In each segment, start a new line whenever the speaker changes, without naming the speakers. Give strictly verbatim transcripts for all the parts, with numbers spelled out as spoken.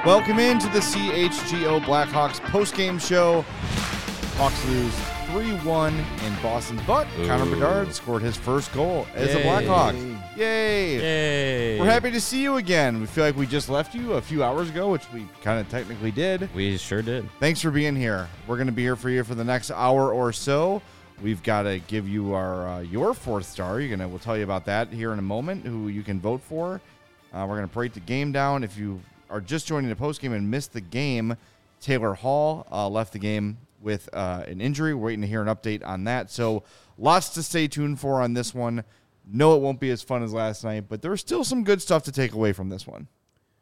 Welcome into the C H G O Blackhawks postgame show. Hawks lose three one in Boston, but Ooh. Connor Bedard scored his first goal as Yay. a Blackhawk. Yay.
Yay!
We're happy to see you again. We feel like we just left you a few hours ago, which we kind of technically did.
We sure did.
Thanks for being here. We're going to be here for you for the next hour or so. We've got to give you our uh, your fourth star. You're gonna. We'll tell you about that here in a moment, who you can vote for. Uh, we're going to break the game down. If you are just joining the postgame and missed the game, Taylor Hall uh, left the game with uh, an injury. We're waiting to hear an update on that. So lots to stay tuned for on this one. No, it won't be as fun as last night, but there's still some good stuff to take away from this one.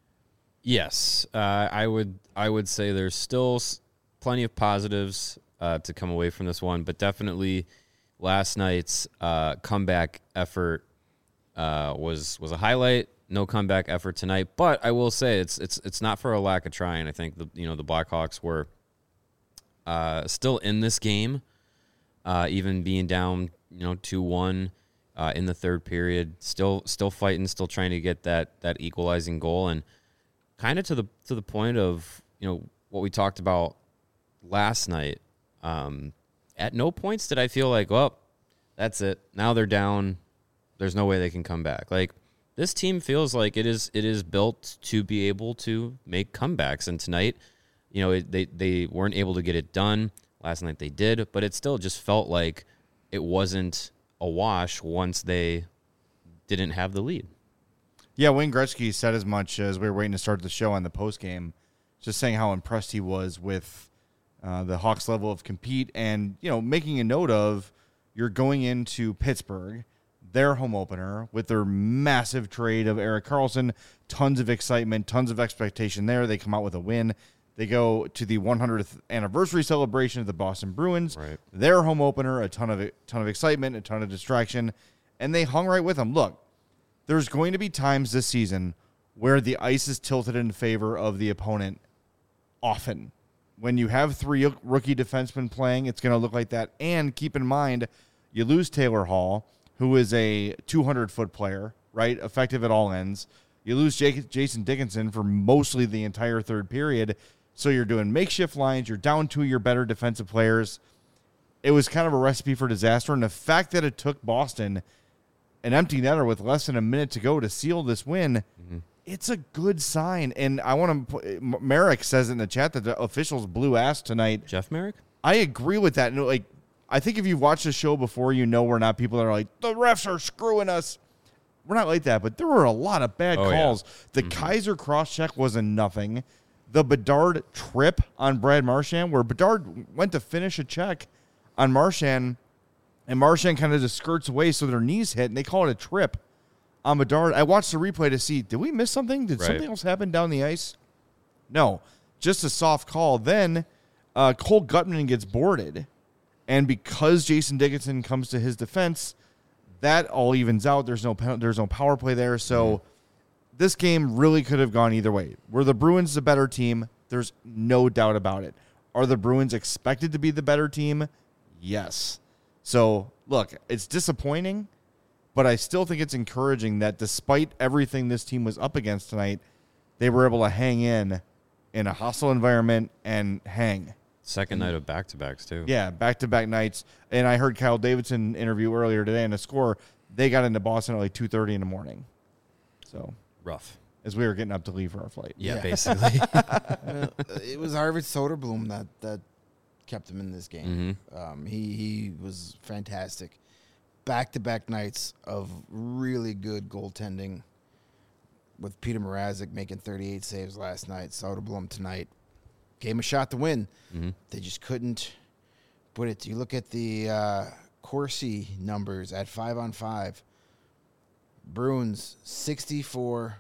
Yes, uh, I would I would say there's still plenty of positives uh, to come away from this one, but definitely last night's uh, comeback effort uh, was was a highlight. No comeback effort tonight, but I will say it's it's it's not for a lack of trying. I think the you know the Blackhawks were uh, still in this game, uh, even being down you know two one uh, in the third period. Still still fighting, still trying to get that that equalizing goal, and kind of to the to the point of you know what we talked about last night. Um, at no points did I feel like, well, that's it. Now they're down. There's no way they can come back. Like. This team feels like it is it is built to be able to make comebacks. And tonight, you know, it, they, they weren't able to get it done. Last night they did, but it still just felt like it wasn't a wash once they didn't have the lead.
Yeah, Wayne Gretzky said as much as we were waiting to start the show on the postgame, just saying how impressed he was with uh, the Hawks' level of compete and, you know, making a note of you're going into Pittsburgh, their home opener, with their massive trade of Erik Karlsson. Tons of excitement, tons of expectation there. They come out with a win. They go to the one hundredth anniversary celebration of the Boston Bruins.
Right.
Their home opener, a ton of ton of excitement, a ton of distraction, and they hung right with them. Look, there's going to be times this season where the ice is tilted in favor of the opponent often. When you have three rookie defensemen playing, it's going to look like that. And keep in mind, you lose Taylor Hall, who is a two hundred foot player, right? Effective at all ends. You lose Jake, Jason Dickinson for mostly the entire third period. So you're doing makeshift lines. You're down two of your better defensive players. It was kind of a recipe for disaster. And the fact that it took Boston an empty netter with less than a minute to go to seal this win, mm-hmm. it's a good sign. And I want to, Merrick says in the chat that the officials blew ass tonight.
Jeff Merrick?
I agree with that. And like, I think if you've watched the show before, you know we're not people that are like, the refs are screwing us. We're not like that, but there were a lot of bad
oh,
calls.
Yeah.
The mm-hmm. Kaiser cross-check was a nothing. The Bedard trip on Brad Marchand, where Bedard went to finish a check on Marchand, and Marchand kind of just skirts away so their knees hit, and they call it a trip on Bedard. I watched the replay to see, did we miss something? Did right. something else happen down the ice? No, just a soft call. Then uh, Cole Gutman gets boarded. And because Jason Dickinson comes to his defense, that all evens out. There's no there's no power play there. So mm-hmm. this game really could have gone either way. Were the Bruins the better team? There's no doubt about it. Are the Bruins expected to be the better team? Yes. So, look, it's disappointing, but I still think it's encouraging that despite everything this team was up against tonight, they were able to hang in in a hostile environment and hang.
Second night of back-to-backs, too.
Yeah, back-to-back nights. And I heard Kyle Davidson interview earlier today in a score. They got into Boston at like two thirty in the morning. So
rough.
As we were getting up to leave for our flight.
Yeah, yeah. basically.
uh, it was Arvid Soderblom that, that kept him in this game.
Mm-hmm.
Um, he, he was fantastic. Back-to-back nights of really good goaltending with Peter Mrazek making thirty-eight saves last night. Soderblom tonight. Gave him a shot to win.
Mm-hmm.
They just couldn't put it. You look at the uh, Corsi numbers at five on five. Bruins sixty-four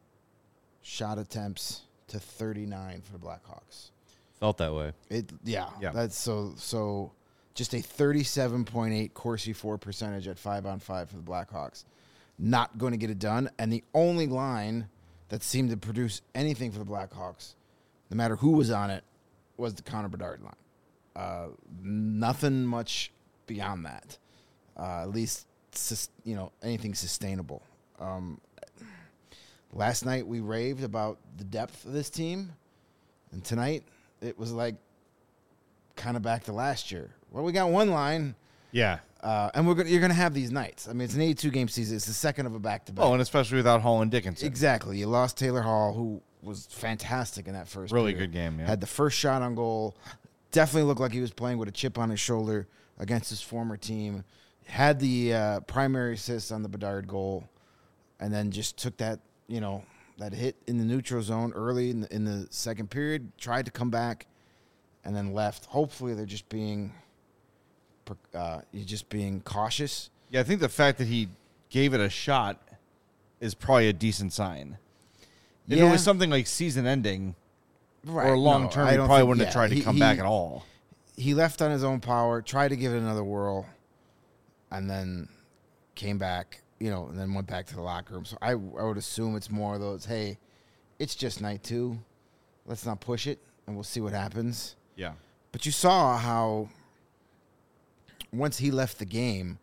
shot attempts to thirty-nine for the Blackhawks.
Felt that way.
It yeah.
Yeah.
That's so so. Just a thirty-seven point eight Corsi four percentage at five on five for the Blackhawks. Not going to get it done. And the only line that seemed to produce anything for the Blackhawks, no matter who was on it, was the Connor Bedard line. Uh, nothing much beyond that. Uh, at least, sus- you know, anything sustainable. Um, last night we raved about the depth of this team, and tonight it was like kind of back to last year. Well, we got one line,
Yeah.
uh, and we're gonna, you're going to have these nights. I mean, it's an eighty-two game season. It's the second of a back-to-back.
Oh, and especially without Hall and Dickinson.
Exactly. You lost Taylor Hall, who was fantastic in that first
Really
period.
good game, yeah.
Had the first shot on goal. Definitely looked like he was playing with a chip on his shoulder against his former team. Had the uh, primary assist on the Bedard goal, and then just took that, you know, that hit in the neutral zone early in the, in the second period, tried to come back, and then left. Hopefully they're just being uh, you're just being cautious.
Yeah, I think the fact that he gave it a shot is probably a decent sign. If
Yeah.
it was something like season ending
Right.
or long
No,
term,
I
he
don't
probably
think-
wouldn't
yeah,
have tried to
he-
come
he-
back at all.
He left on his own power, tried to give it another whirl, and then came back, you know, and then went back to the locker room. So I, I would assume it's more of those, hey, it's just night two. Let's not push it, and we'll see what happens.
Yeah.
But you saw how once he left the game,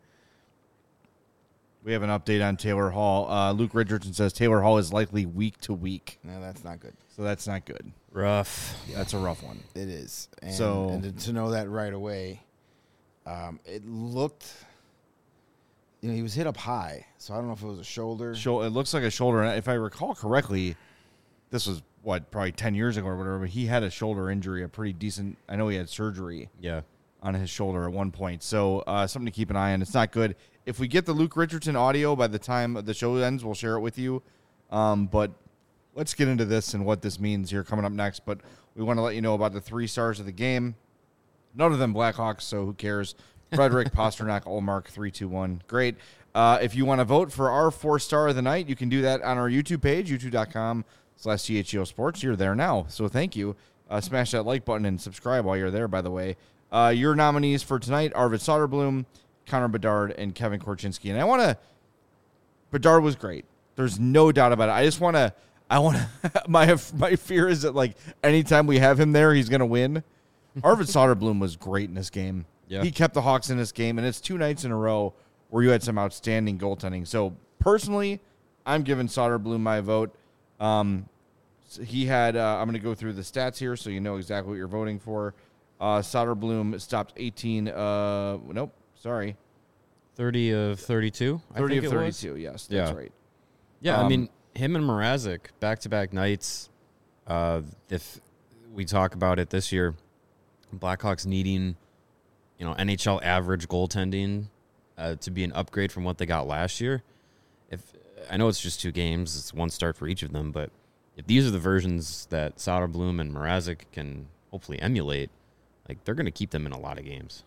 We have an update on Taylor Hall. Uh, Luke Richardson says Taylor Hall is likely week to week.
no, that's not good.
So that's not good.
Rough.
That's a rough one.
It is. And,
So-
and to, to know that right away, um, it looked, you know, he was hit up high. So I don't know if it was a shoulder.
Shou- It looks like a shoulder. And if I recall correctly, this was, what, probably ten years ago or whatever, but he had a shoulder injury, a pretty decent. I know he had surgery
Yeah.
on his shoulder at one point. So uh, something to keep an eye on. It's not good. If we get the Luke Richardson audio by the time the show ends, we'll share it with you. Um, but let's get into this and what this means here coming up next. But we want to let you know about the three stars of the game. None of them Blackhawks, so who cares? Frederick, Pasternak, Olmark, three two one. Great. Uh, if you want to vote for our four star of the night, you can do that on our YouTube page, youtube.com slash CHGO Sports. You're there now, so thank you. Uh, smash that like button and subscribe while you're there, by the way. Uh, your nominees for tonight, Arvid Soderblom, Connor Bedard, and Kevin Korchinski. And I want to, Bedard was great. There's no doubt about it. I just want to, I want to, my my fear is that, like, anytime we have him there, he's going to win. Arvid Soderblom was great in this game.
Yeah.
He kept the Hawks in this game, and it's two nights in a row where you had some outstanding goaltending. So, personally, I'm giving Soderblom my vote. Um, so he had, uh, I'm going to go through the stats here so you know exactly what you're voting for. Uh, Soderblom stopped eighteen, uh, nope, sorry.
thirty of thirty-two. I
thirty
think
of
it was.
thirty-two, yes, that's
Yeah.
right.
Yeah, I
Um,
mean, him and Mrazek, back-to-back nights. Uh, if we talk about it this year, Blackhawks needing, you know, N H L average goaltending uh, to be an upgrade from what they got last year. If I know it's just two games, it's one start for each of them, but if these are the versions that Soderblom and Mrazek can hopefully emulate, like, they're going to keep them in a lot of games.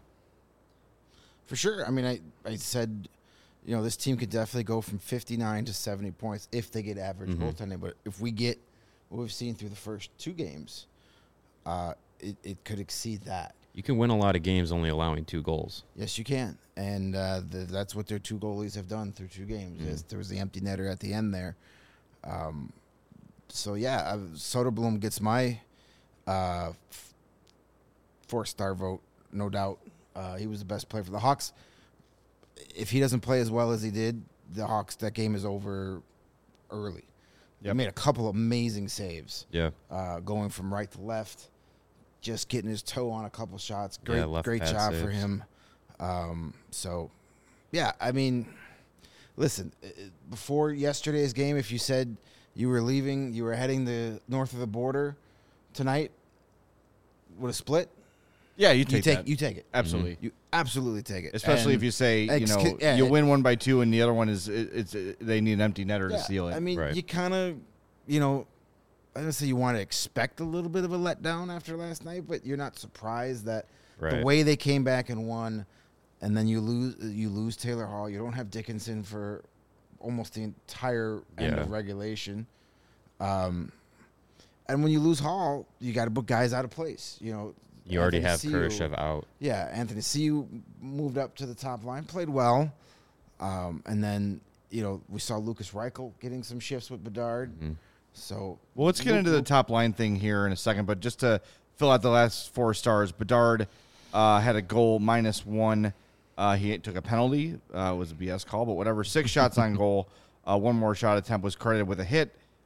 For sure. I mean, I, I said, you know, this team could definitely go from fifty-nine to seventy points if they get average
Mhm.
goaltending. But if we get what we've seen through the first two games, uh, it, it could exceed that.
You can win a lot of games only allowing two goals.
Yes, you can. And uh, the, that's what their two goalies have done through two games.
Mm.
Yes, there was the empty netter at the end there. Um, so, yeah, uh, Soderblom gets my uh, f- four-star vote, no doubt. Uh, he was the best player for the Hawks. If he doesn't play as well as he did, the Hawks, that game is over early. He
Yep.
made a couple of amazing saves,
Yeah.
uh, going from right to left, just getting his toe on a couple shots. Great,
Yeah, left
great
pad
job for
saves.
him. Um, so, yeah, I mean, listen, uh, before yesterday's game, if you said you were leaving, you were heading the north of the border tonight, would a split?
Yeah, you
You
take,
take,
that.
you take it.
Absolutely.
You absolutely take it.
Especially
And
if you say, you
ex-
know,
yeah,
you
it-
win one by two and the other one is, it, it's uh they need an empty netter to
yeah,
seal it.
I mean,
Right.
you kind of, you know, I don't say you want to expect a little bit of a letdown after last night, but you're not surprised that
Right.
the way they came back and won, and then you lose you lose Taylor Hall. You don't have Dickinson for almost the entire end
Yeah.
of regulation. Um, and when you lose Hall, you got to put guys out of place. You know,
You already
Anthony
have
Ciu-
Kurashev out.
Yeah, Anthony Ciu moved up to the top line, played well, um, and then you know we saw Lucas Reichel getting some shifts with Bedard.
Mhm.
So
Well, let's get
Luke-
into the
Luke-
top line thing here in a second, but just to fill out the last four stars, Bedard uh, had a goal minus one. Uh, he took a penalty. Uh, it was a B S call, but whatever. Six shots on goal. Uh, one more shot attempt was credited with a hit.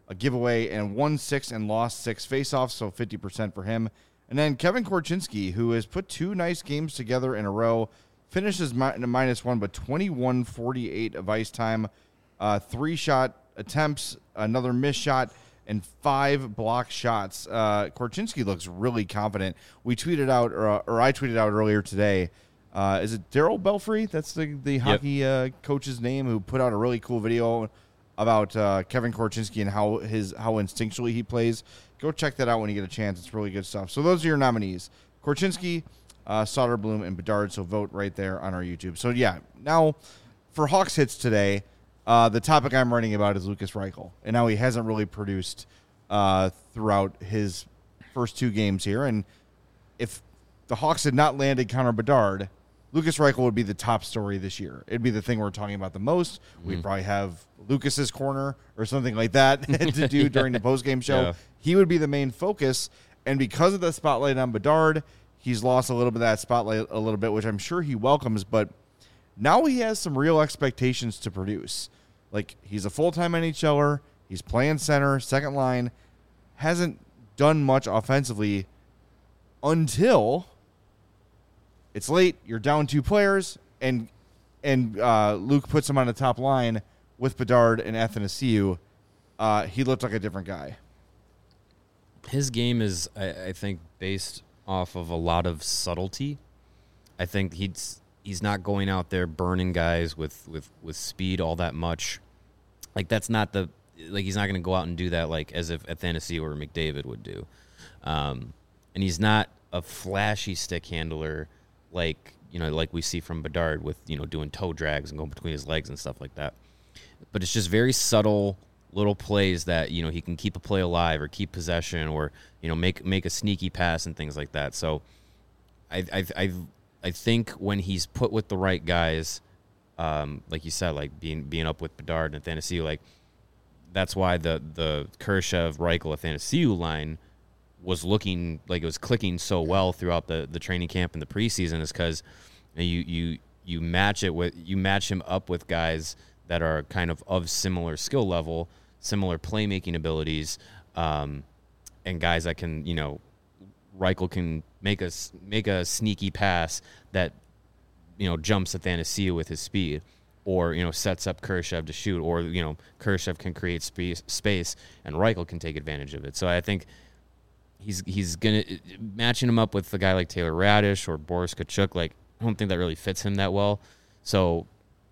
a giveaway, and won six and lost six faceoffs, so fifty percent for him. And then Kevin Korchinski, who has put two nice games together in a row, finishes mi- minus one, but twenty-one forty-eight of ice time, uh, three shot attempts, another missed shot, and five block shots. Uh, Korchinski looks really confident. We tweeted out, or, or I tweeted out earlier today. Uh, is it Daryl Belfry? That's the, the yep. hockey uh, coach's name, who put out a really cool video about uh, Kevin Korchinski and how his how instinctually he plays. Go check that out when you get a chance. It's really good stuff. So those are your nominees: Korchinski, uh, Soderblom, and Bedard. So vote right there on our YouTube. So yeah, now for Hawks Hits today, uh, the topic I'm writing about is Lukas Reichel, and now he hasn't really produced uh, throughout his first two games here. And if the Hawks had not landed Connor Bedard, Lukas Reichel would be the top story this year. It'd be the thing we're talking about the most. Mm-hmm. We'd probably have Lucas's corner or something like that to do yeah. during the postgame show. Yeah. He would be the main focus. And because of the spotlight on Bedard, he's lost a little bit of that spotlight a little bit, which I'm sure he welcomes. But now he has some real expectations to produce. Like, he's a full-time NHLer. He's playing center, second line. Hasn't done much offensively until it's late, you're down two players, and and uh, Luke puts him on the top line with Bedard and Athanasiou. Uh, he looked like a different guy.
His game is, I, I think, based off of a lot of subtlety. I think he's he's not going out there burning guys with, with, with speed all that much. Like, that's not the – like, he's not going to go out and do that like as if Athanasiou or McDavid would do. Um, and he's not a flashy stick handler – like, you know, like we see from Bedard with, you know, doing toe drags and going between his legs and stuff like that. But it's just very subtle little plays that, you know, he can keep a play alive or keep possession or, you know, make make a sneaky pass and things like that. So I I I, I think when he's put with the right guys, um, like you said, like being being up with Bedard and Athanasiou, like that's why the the Kurashev, Reichel, Athanasiou line was looking like it was clicking so well throughout the, the training camp and the preseason is because you, you you match it with you match him up with guys that are kind of of similar skill level, similar playmaking abilities, um, and guys that can, you know, Reichel can make a make a sneaky pass that, you know, jumps Athanasiou with his speed, or, you know, sets up Kurashev to shoot, or, you know, Kurashev can create space space and Reichel can take advantage of it. So I think He's he's gonna matching him up with a guy like Taylor Radish or Boris Tkachuk. Like, I don't think that really fits him that well. So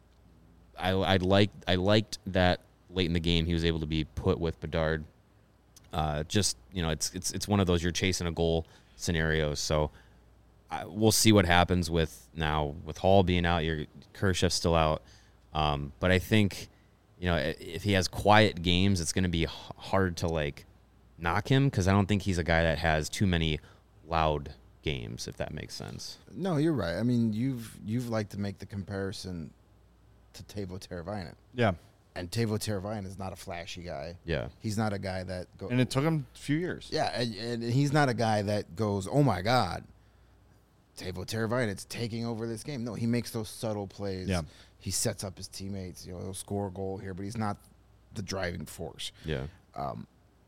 I I liked I liked that late in the game he was able to be put with Bedard. Uh, just, you know, it's it's it's one of those you're chasing a goal scenarios. So I, we'll see what happens with now with Hall being out. Your Kurashev's still out, um, but I think, you know, if he has quiet games, it's going to be hard to like knock him, because I don't think he's a guy that has too many loud games, if that makes sense.
No, you're right. I mean, you've you've liked to make the comparison to Teuvo Teravainen.
Yeah.
And Teuvo Teravainen is not a flashy guy.
Yeah.
He's not a guy that goes...
And it took him a few years.
Yeah, and, and he's not a guy that goes, oh, my God, Teuvo Teravainen's taking over this game. No, he makes those subtle plays.
Yeah.
He sets up his teammates. You know, he'll score a goal here, but he's not the driving force.
Yeah.
Um,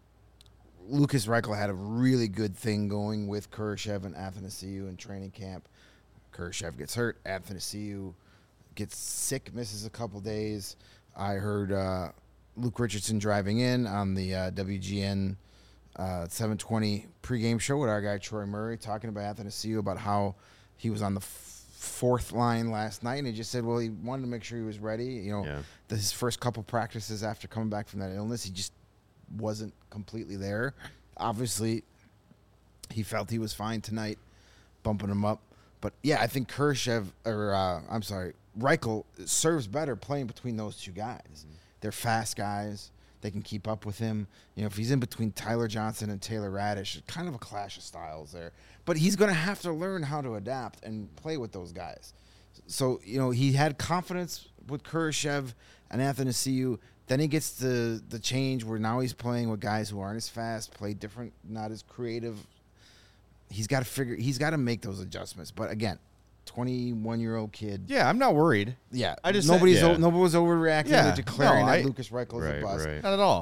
Lukas Reichel had a really good thing going with Kurashev and Athanasiou in training camp. Kurashev gets hurt. Athanasiou gets sick, misses a couple days. I heard uh, Luke Richardson driving in on the uh, W G N uh, seven twenty pregame show with our guy Troy Murray talking about Athanasiou, about how he was on the f- fourth line last night, and he just said, well, he wanted to make sure he was ready. You know,
yeah.
the, his first couple practices after coming back from that illness, he just wasn't completely there. Obviously, he felt he was fine tonight, bumping him up. But, yeah, I think Kurashev, or uh, I'm sorry, Reichel serves better playing between those two guys. Mm-hmm. They're fast guys. They can keep up with him. You know, if he's in between Tyler Johnson and Taylor Radish, it's kind of a clash of styles there. But he's going to have to learn how to adapt and play with those guys. So, you know, he had confidence with Kurashev and Athanasiou. Then he gets the the change where now he's playing with guys who aren't as fast, play different, not as creative. He's got to figure. He's got to make those adjustments. But again, twenty-one-year-old kid.
Yeah, I'm not worried.
Yeah,
I just
nobody's
said, yeah.
o- nobody was overreacting
Yeah,
to declaring
no,
that
I,
Lukas Reichel is
right,
a bust.
Right.
Not at all.
But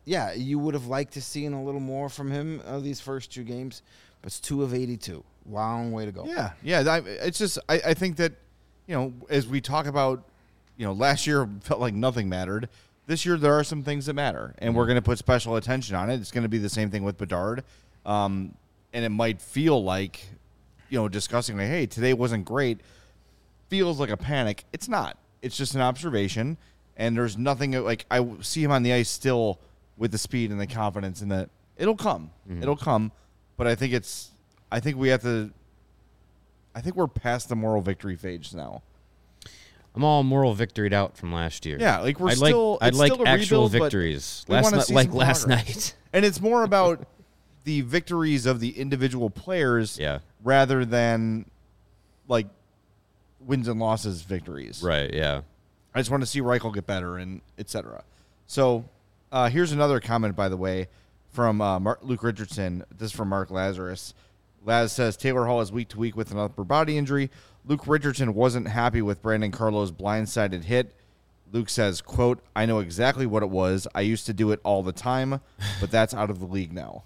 yeah, you would have liked to seen a little more from him uh, these first two games, but it's two of eighty-two. Long way to go.
Yeah, yeah. I, it's just I, I think that, you know, as we talk about, you know, last year felt like nothing mattered. This year there are some things that matter, and we're going to put special attention on it. It's going to be the same thing with Bedard, um, and it might feel like, you know, discussing like, hey, today wasn't great, feels like a panic. It's not. It's just an observation, and there's nothing like I see him on the ice still with the speed and the confidence, and that it'll come, mm-hmm. it'll come. But I think it's, I think we have to. I think we're past the moral victory phase now.
I'm all moral victoried out from last year.
Yeah, like we're
I'd
still.
like, I'd
it's
like
still a
actual
rebuild,
victories.
we
Last
wanna
night,
see
like
some
last
progress.
night.
And it's more about the victories of the individual players,
Yeah.
rather than like wins and losses victories.
Right. Yeah.
I just want to see Reichel get better and et cetera. So uh, here's another comment, by the way, from uh, Mark, Luke Richardson. This is from Mark Lazarus. Laz says, Taylor Hall is week to week with an upper body injury. Luke Richardson wasn't happy with Brandon Carlo's blindsided hit. Luke says, quote, I know exactly what it was. I used to do it all the time, but that's out of the league now.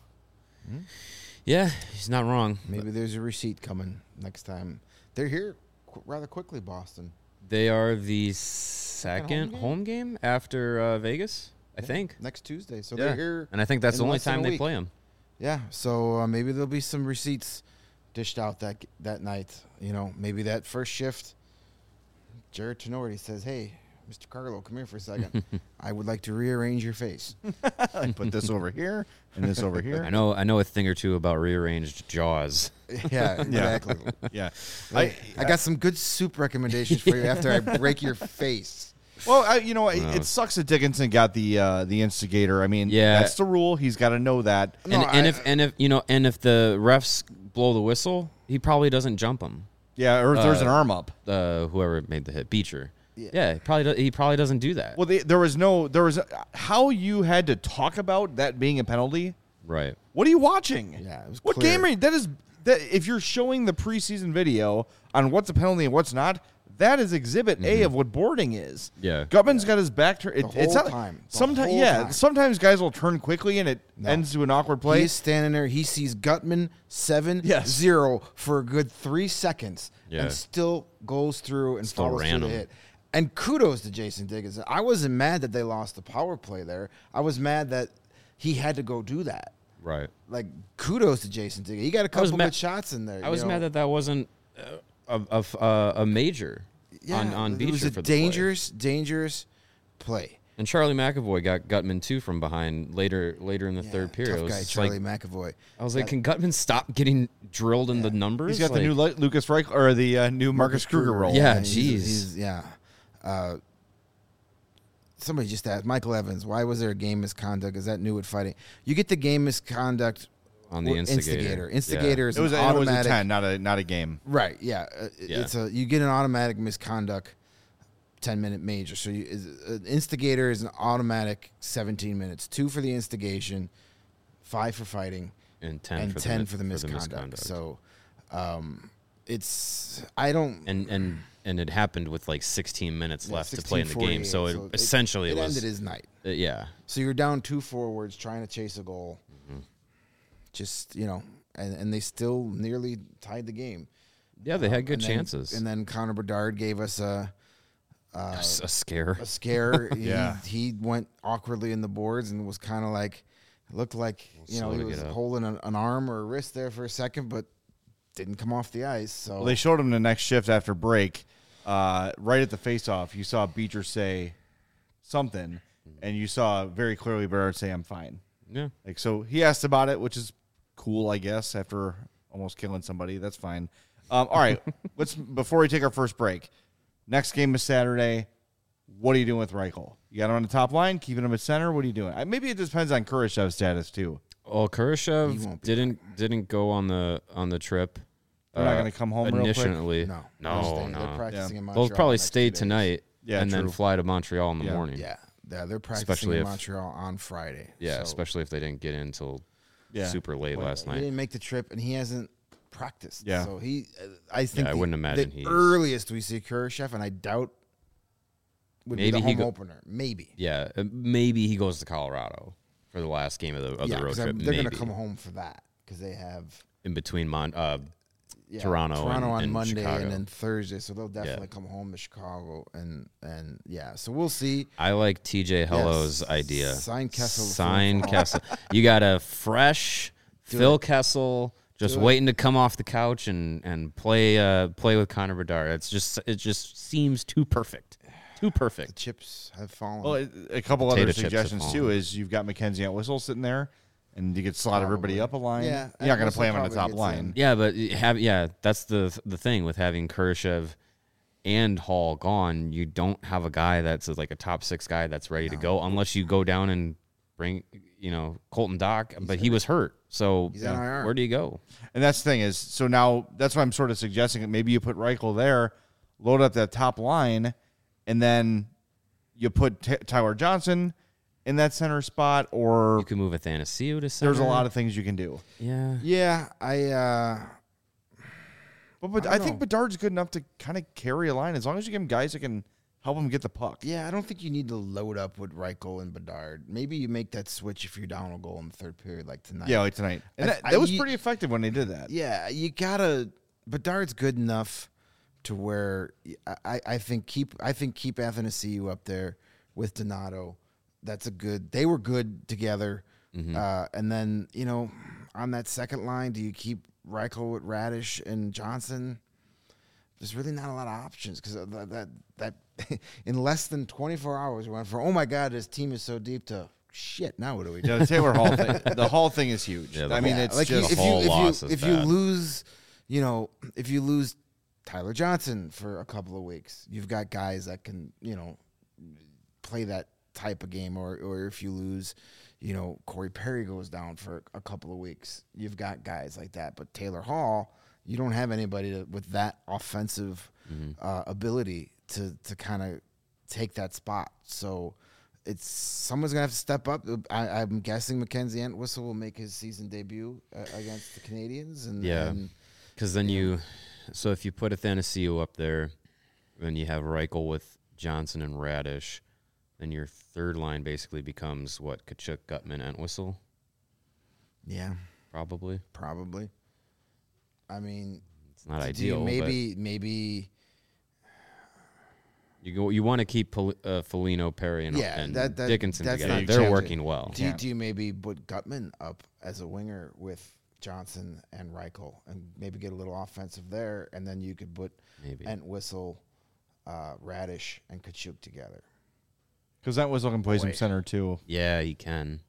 Yeah, he's not wrong.
Maybe there's a receipt coming next time. They're here qu- rather quickly, Boston.
They are the second
home
home
game?
game, after uh, Vegas, I
Yeah,
think.
next Tuesday. So
Yeah.
they're here.
And I think that's
in
the only
less than
time
a
they
week.
play him.
Yeah, so uh, maybe there'll be some receipts dished out that that night. You know, maybe that first shift, Jared Tenorti says, hey, Mister Carlo, come here for a second. I would like to rearrange your face.
I put this over here and this over here.
I know I know a thing or two about rearranged jaws.
Yeah, exactly.
Yeah.
I, I got some good soup recommendations for you after I break your face.
Well, I, you know, it,
Wow.
it sucks that Dickinson got the uh, the instigator. I mean,
Yeah.
that's the rule. He's got to know that.
And,
No,
and
I-
if and if you know and if the refs blow the whistle, he probably doesn't jump him.
Yeah, or if there's
Uh,
an arm up.
Uh, whoever made the hit, Beecher.
Yeah.
Yeah, he probably do, he probably doesn't do that.
Well, they, there was no, there was how you had to talk about that being a penalty.
Right.
What are you watching?
Yeah, it was
What
clear.
game are you? That is that. If you're showing the preseason video on what's a penalty and what's not, that is Exhibit A of what boarding is.
Yeah.
Gutman's got his back turned. It,
The
it's
whole
not,
time. The
Sometimes,
whole
yeah.
time.
Sometimes guys will turn quickly and it
No.
ends to an awkward play.
He's standing there. He sees Gutman seven
Yes.
zero for a good three seconds,
Yeah.
and still goes through and
Still
follows
ran
through the
him.
hit. And kudos to Jason Dickinson. I wasn't mad that they lost the power play there. I was mad that he had to go do that.
Right.
Like kudos to Jason Dickinson. He got a
was
couple
ma-
good shots in there.
I was
you know?
mad that that wasn't uh, a, a, a, a major on on
it
Beecher
was a
for the play.
dangerous, dangerous play.
And Charlie McAvoy got Gutman too from behind later later in the
Yeah,
third period.
tough
I was
guy
just
Charlie
like,
McAvoy.
I was like,
That-
can Gutman stop getting drilled in the numbers?
He's got the
Like,
new Lu- Lucas Reich or the uh, new Marcus Kruger role.
Yeah,
he's-
jeez.
he's- yeah. Uh, somebody just asked Michael Evans, why was there a game misconduct? Is that new with fighting? You get the game misconduct
on the
or
instigator.
Instigator
Yeah.
is
It was,
an
a, it was a
automatic.
ten, not a not a game.
Right. Yeah. Uh, it-
Yeah.
It's a you get an automatic misconduct ten minute major. So you, is, an instigator is an automatic seventeen minutes. Two for the instigation, five for fighting,
and ten
and
for
ten
the,
for the
mi-
misconduct. So, um, it's I don't.
and and and it happened with like sixteen minutes
yeah,
left to play in the game. So it,
sixteen forty-eight.
essentially
it,
was
ended his night.
uh, yeah.
So you're down two forwards trying to chase a goal.
Mm-hmm.
Just you know, and, and they still nearly tied the game.
Yeah, they had good
And then-
chances.
And then Connor Bedard gave us a
a, s- a scare.
a scare.
Yeah.
he, he went awkwardly in the boards and was kind of like, it looked like you know
Slow
he
to
was
get up.
holding an, an arm or a wrist there for a second, but didn't come off the ice. So
Well, they showed him the next shift after break. Uh, right at the face-off, you saw Beecher say something, and you saw very clearly Bedard say, I'm fine.
Yeah.
Like, so he asked about it, which is cool, I guess, after almost killing somebody. That's fine. Um, all right, let's before we take our first break. Next game is Saturday. What are you doing with Reichel? You got him on the top line, keeping him at center. What are you doing? Uh, Maybe it depends on Kurashev's status too.
Well,
He
Kurashev
won't be
didn't didn't go on the on the trip.
They're not
uh,
gonna come home real quick?
initially.
no,
no,
they're staying-
no.
They're practicing in
They'll
Montreal.
probably
the next
stay
two days.
tonight
Yeah,
and then
true.
fly to Montreal in the
Yeah.
morning.
Yeah, yeah, they're practicing
Especially
in
if-
Montreal on Friday.
Yeah,
so
especially if they didn't get in until
Yeah.
super late
Well,
last
he
night.
didn't make the trip, and he hasn't practiced.
Yeah.
so he, uh, I think,
I
the-
wouldn't imagine
the
he's-
earliest we see Kurashev, and I doubt would
Maybe
be the
he
home
go-
opener. Maybe.
Yeah, uh, maybe he goes to Colorado. for the last game of the, of
yeah,
the road
'cause
trip.
I'm- they're
maybe.
going to come home for that because they have
in between Mon- uh,
yeah,
Toronto
Toronto
and-
on
and
Monday
Chicago.
and then Thursday, so they'll definitely come home to Chicago and and yeah, so we'll see.
I like T J Hello's
Yes.
idea.
Sign Kessel.
Sign
for-
Kessel. You got a fresh
Do
Phil
it.
Kessel just
Do it.
waiting to come off the couch and and play uh, play with Connor Bedard. It's just it just seems too perfect, too
The
perfect.
chips have fallen.
Well, a couple
Potato
other
chips have
suggestions too
fallen.
is you've got Mackenzie Entwistle sitting there, and you could slot everybody
Probably.
up a line.
Yeah,
You're not going to
Entwistle
play him on the
probably
top
gets
line.
in.
Yeah, but you have yeah, that's the the thing with having Kurashev and Hall gone. You don't have a guy that's like a top six guy that's ready to go unless you go down and bring you know Colton Dock, but he was hurt. So
He's on I R.
where do you go?
And that's the thing is, so now that's why I'm sort of suggesting that maybe you put Reichel there, load up that top line, and then you put T- Tyler Johnson in that center spot, or
You can move Athanasiou to center.
there's a lot of things you can do.
yeah.
yeah, I uh
But, but
I
I,
don't
think
know.
Bedard's good enough to kind of carry a line as long as you give him guys that can help him get the puck.
yeah, I don't think you need to load up with Reichel and Bedard. Maybe you make that switch if you're down a goal in the third period, like tonight.
Yeah, like tonight. And
I-
that,
I-
that was
you-
pretty effective when they did that.
Yeah, you gotta. Bedard's good enough to where I, I, I think keep I think keep Athanasiou up there with Donato. That's a good. They were good together, uh, and then you know on that second line, do you keep Reichel with Radish and Johnson? There's really not a lot of options because that, that that in less than twenty-four hours we went from oh my god this team is so deep to shit now what do we do?
Yeah, the Taylor Hall thing. The Hall thing is huge.
Yeah, the
I mean,
Hall-
it's
like you-
just
if you
whole
if
loss
you
is
if you
bad.
lose, you know, if you lose Tyler Johnson for a couple of weeks, you've got guys that can you know play that type of game, or or if you lose, you know, Corey Perry goes down for a couple of weeks, you've got guys like that. But Taylor Hall, you don't have anybody to, with that offensive uh, ability to to kind of take that spot. So. It's someone's gonna have to step up. I, I'm guessing Mackenzie Entwistle will make his season debut uh, against the Canadians, and
Yeah.
and
Because then you, so if you put Athanasiou up there, then you have Reichel with Johnson and Radish, then your third line basically becomes what, Kachuk, Gutman, Entwistle,
yeah,
probably.
probably. I mean,
It's not
do you
ideal.
maybe maybe
but you go. You want to keep Pol- uh, Foligno, Perry, and,
Yeah,
and
that- that-
Dickinson
that's
together.
not
They're
changing.
working well.
do, you,
Yeah.
do you maybe put Gutman up as a winger with Johnson and Reichel, and maybe get a little offensive there, and then you could put
Maybe.
Entwistle, uh, Radish, and Kachuk together.
because that was looking play some
Boy.
center too.
Yeah, you can.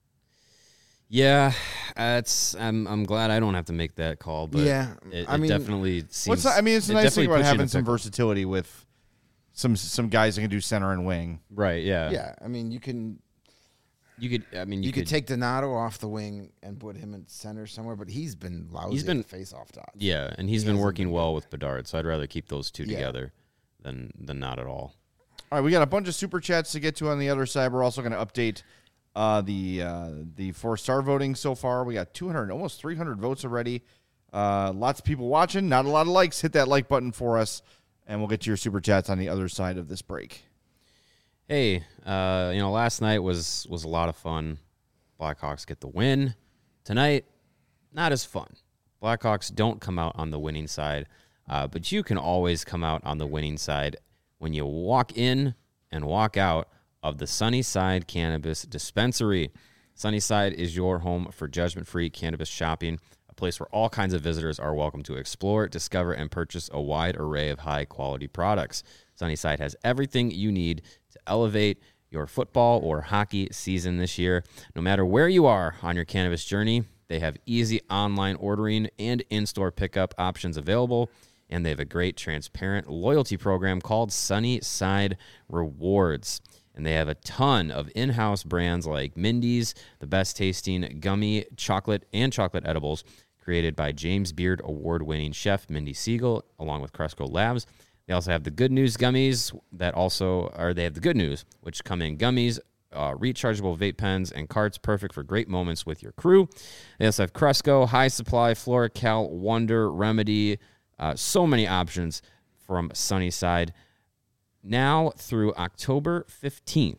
Yeah, that's. I'm. I'm glad I don't have to make that call. But
Yeah,
it,
I
it
mean-
definitely seems.
What's I mean, it's a
it
nice thing
definitely
about
puts you in
having
a
some
pickle.
versatility with some some guys that can do center and wing.
Right. Yeah.
Yeah, I mean you can
You could. I mean,
you,
you,
could, take Donato off the wing and put him in center somewhere, but he's been lousy
He's been-
at face off dots.
Yeah, and he's
He
been
hasn't
working
been
well with Bedard, so I'd rather keep those two
Yeah.
together than than not at all.
All right, we got a bunch of super chats to get to on the other side. We're also going to update uh, the uh, the four star voting so far. We got two hundred, almost three hundred votes already. Uh, lots of people watching. Not a lot of likes. Hit that like button for us, and we'll get to your super chats on the other side of this break.
Hey, uh, you know, last night was was a lot of fun. Blackhawks get the win. Tonight, not as fun. Blackhawks don't come out on the winning side, uh, but you can always come out on the winning side when you walk in and walk out of the Sunnyside Cannabis Dispensary. Sunnyside is your home for judgment-free cannabis shopping, a place where all kinds of visitors are welcome to explore, discover, and purchase a wide array of high-quality products. Sunnyside has everything you need to elevate your football or hockey season this year. No matter where you are on your cannabis journey, they have easy online ordering and in-store pickup options available, and they have a great transparent loyalty program called Sunnyside Rewards. And they have a ton of in-house brands like Mindy's, the best tasting gummy chocolate and chocolate edibles created by James Beard award-winning chef Mindy Siegel, along with Cresco Labs. They also have the Good News gummies that also are, they have the Good News, which come in gummies, uh, rechargeable vape pens, and carts, perfect for great moments with your crew. They also have Cresco, High Supply, FloraCal, Wonder, Remedy, uh, so many options from Sunnyside. Now through October fifteenth,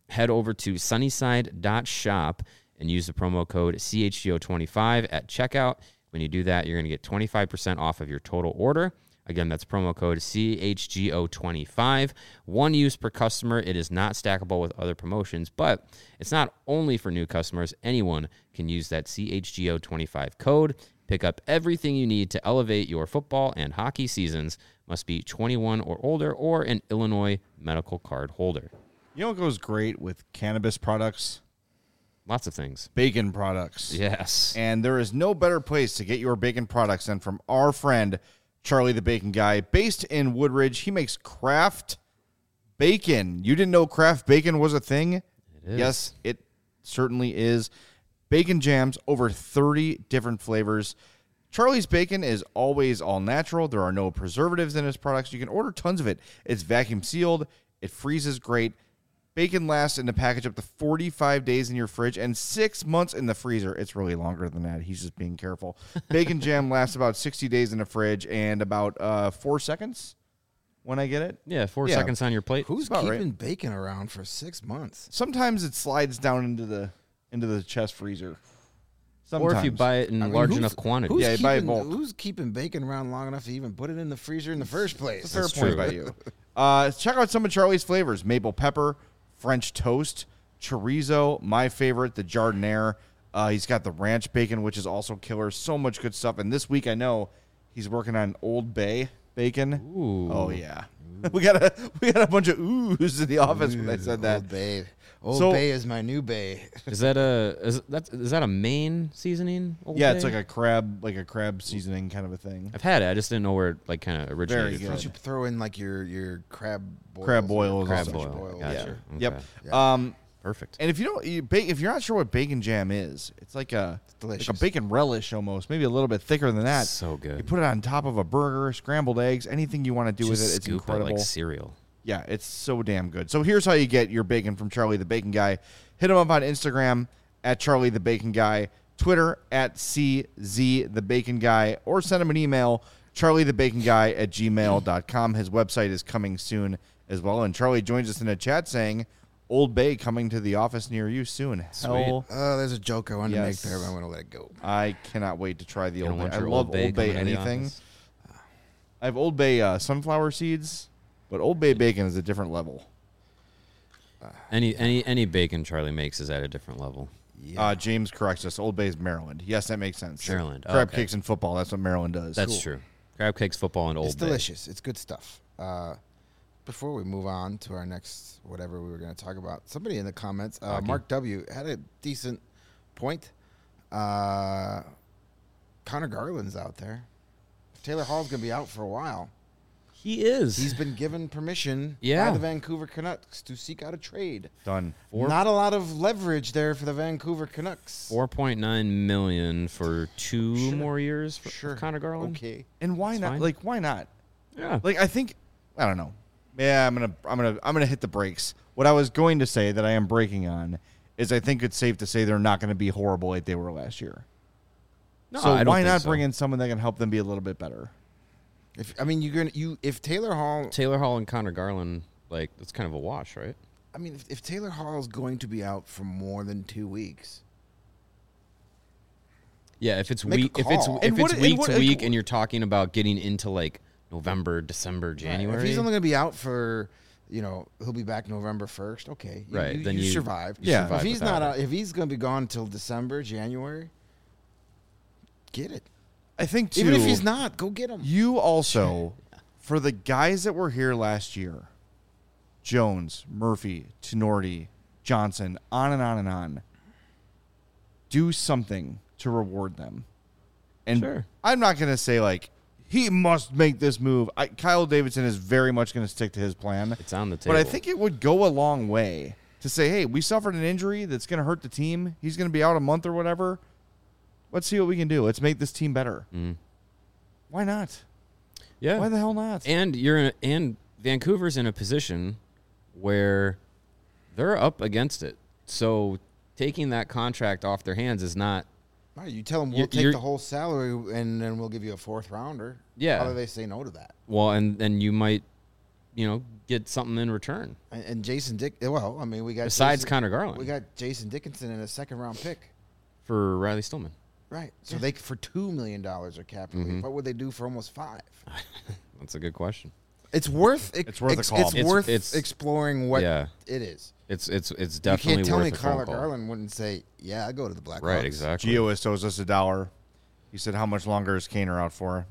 head over to sunnyside dot shop and use the promo code C H G O twenty-five at checkout. When you do that, you're going to get twenty-five percent off of your total order. Again, that's promo code C H G O twenty-five. One use per customer. It is not stackable with other promotions, but it's not only for new customers. Anyone can use that C H G O twenty-five code. Pick up everything you need to elevate your football and hockey seasons. Must be twenty-one or older or an Illinois medical card holder.
You know what goes great with cannabis products?
Lots of things.
Bacon products.
Yes.
And there is no better place to get your bacon products than from our friend, Charlie the Bacon Guy, based in Woodridge. He makes craft bacon. You didn't know craft bacon was a thing?
It is.
Yes, it certainly is. Bacon jams, over thirty different flavors. Charlie's Bacon is always all natural. There are no preservatives in his products. You can order tons of it. It's vacuum sealed. It freezes great. Bacon lasts in the package up to forty-five days in your fridge and six months in the freezer. It's really longer than that. He's just being careful. Bacon jam lasts about sixty days in the fridge and about uh, four seconds when I get it.
Yeah, four
Yeah.
seconds on your plate.
Who's
about
keeping
right.
bacon around for six months?
Sometimes it slides down into the into the chest freezer. Sometimes.
Or if you buy it in
I mean,
large
who's-
enough quantities.
Who's
Yeah, you buy it
keeping,
bulk.
who's keeping bacon around long enough to even put it in the freezer in the first place?
Fair
That's
point
true.
by you. Uh, check out some of Charlie's flavors: maple pepper, French toast, chorizo. My favorite, the jardiniere. Uh, he's got the ranch bacon, which is also killer. So much good stuff. And this week, I know he's working on Old Bay bacon.
Ooh.
Oh yeah, we got a we got a bunch of oohs in the office when I said that.
Old Bay. Old
So-
Bay is my new Bay.
Is that a is that is that a Maine seasoning? Old
Yeah, it's
Bay?
like a crab, like a crab seasoning kind of a thing.
I've had it. I just didn't know where it like kind of originated
good.
Why
from.
don't you throw in like your, your crab boils?
Crab
or
boils.
Crab
sausage
boil.
boils?
Gotcha.
Yeah.
Okay.
Yep.
Yeah.
Um,
Perfect.
and if you don't, you ba- if you're not sure what bacon jam is, it's like a
delicious.
like a bacon relish almost, maybe a little bit thicker than that.
So good.
You put it on top of a burger, scrambled eggs, anything you want to do
Just
with it. It's
scoop
incredible.
it like cereal.
Yeah, it's so damn good. So here's how you get your bacon from Charlie the Bacon Guy. Hit him up on Instagram at Charlie the Bacon Guy, Twitter at C Z the Bacon Guy, or send him an email, charlie the bacon guy at gmail dot com. His website is coming soon as well. And Charlie joins us in a chat saying, Old Bay coming to the office near you soon. Hell,
Oh, there's a joke I wanted to make
Yes.
there, but I'm going to let it go.
I cannot wait to try the
You
Old
don't
Bay.
want
I
your
love
Old Bay
Old Bay
coming to the
anything.
office?
I have Old Bay uh, sunflower seeds, but Old Bay bacon is a different level.
Any any any bacon Charlie makes is at a different level.
Yeah.
Uh, James corrects us. Old Bay is Maryland. Yes, that makes sense.
Maryland. Oh,
Crab
okay.
cakes and football. That's what Maryland does.
That's
Cool.
true. Crab cakes, football, and Old
it's
Bay.
delicious. It's good stuff. Uh, before we move on to our next whatever we were going to talk about, somebody in the comments, uh,
Hockey.
Mark W. had a decent point. Uh, Connor Garland's out there. Taylor Hall's going to be out for a while.
He is.
He's been given permission
Yeah.
by the Vancouver Canucks to seek out a trade.
Done.
Four-
Not a lot of leverage there for the Vancouver Canucks.
four point nine million for two
Sure.
more years for
Sure.
Connor Garland.
Okay.
And why
It's
not?
fine.
Like, why not?
Yeah.
Like, I think, I don't know. Yeah, I'm gonna, I'm gonna, I'm gonna hit the brakes. What I was going to say that I am breaking on is I think it's safe to say they're not going to be horrible like they were last year.
No,
so
I don't
why
think
not
so.
bring in someone that can help them be a little bit better?
If I mean, you're gonna you if Taylor Hall.
Taylor Hall and Connor Garland, like that's kind of a wash, right?
I mean, if, if Taylor Hall is going to be out for more than two weeks,
Yeah, if it's
Make a
week, if it's
call.
if
And what-
it's
and
week
what-
to
like,
week, and you're talking about getting into like November, December, January.
if he's only going to be out for, you know, he'll be back November first. Okay, you,
Right,
You,
then
you,
you-
survive.
you
Yeah.
If
survive
he's
without
not
it.
out, if he's going to be gone till December, January, get it.
I think too,
Even if he's not, go get him.
You also, for the guys that were here last year, Jones, Murphy, Tenorti, Johnson, on and on and on, do something to reward them. And
Sure.
I'm not going to say, like, he must make this move. I, Kyle Davidson is very much going to stick to his plan.
it's on the table.
But I think it would go a long way to say, hey, we suffered an injury that's going to hurt the team. He's going to be out a month or whatever. Let's see what we can do. Let's make this team better.
Mm.
Why not?
yeah,
Why the hell not?
and you're in a, and Vancouver's in a position where they're up against it. So taking that contract off their hands is not.
All right, you tell them we'll
You're-
take
you're-
the whole salary and then we'll give you a fourth rounder.
Yeah.
How do they say no to that?
Well, and then you might you know, get something in return
And, and Jason Dick. Well, I mean, we got
besides
Jason,
Connor Garland
we got Jason Dickinson in a second round pick.
for Riley Stillman.
Right. So they for two million dollars are cap relief.
Mm-hmm.
What would they do for almost five?
That's a good question.
It's worth. Ex-
It's worth a
ex-
call.
It's,
It's-
worth
it's-
exploring what
yeah.
it is.
It's it's it's
You
definitely
can't tell
worth
me
a phone
Connor
call.
Garland wouldn't say, "Yeah, I go to the Blackhawks."
Right, exactly.
Gio owes us a dollar. He said, "How much longer is Kaner out for?"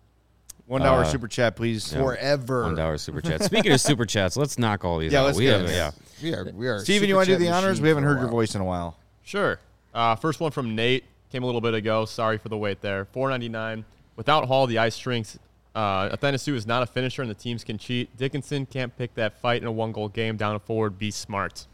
One dollar
Uh,
super chat, please.
yeah.
Forever.
One dollar super chat. Speaking of super chats, let's knock all these
Yeah,
out.
let's
we
get
have,
it.
yeah.
We are. We are.
Steven,
super
you want to do
chat
the honors?
machine
We haven't
for a
heard your
while.
voice in a while.
Sure. Uh, first one from Nate came a little bit ago. Sorry for the wait there. four ninety-nine. Without Hall, the ice shrinks. Uh, Athanasu is not a finisher, and the teams can cheat. Dickinson can't pick that fight in a one-goal game down a forward. Be smart.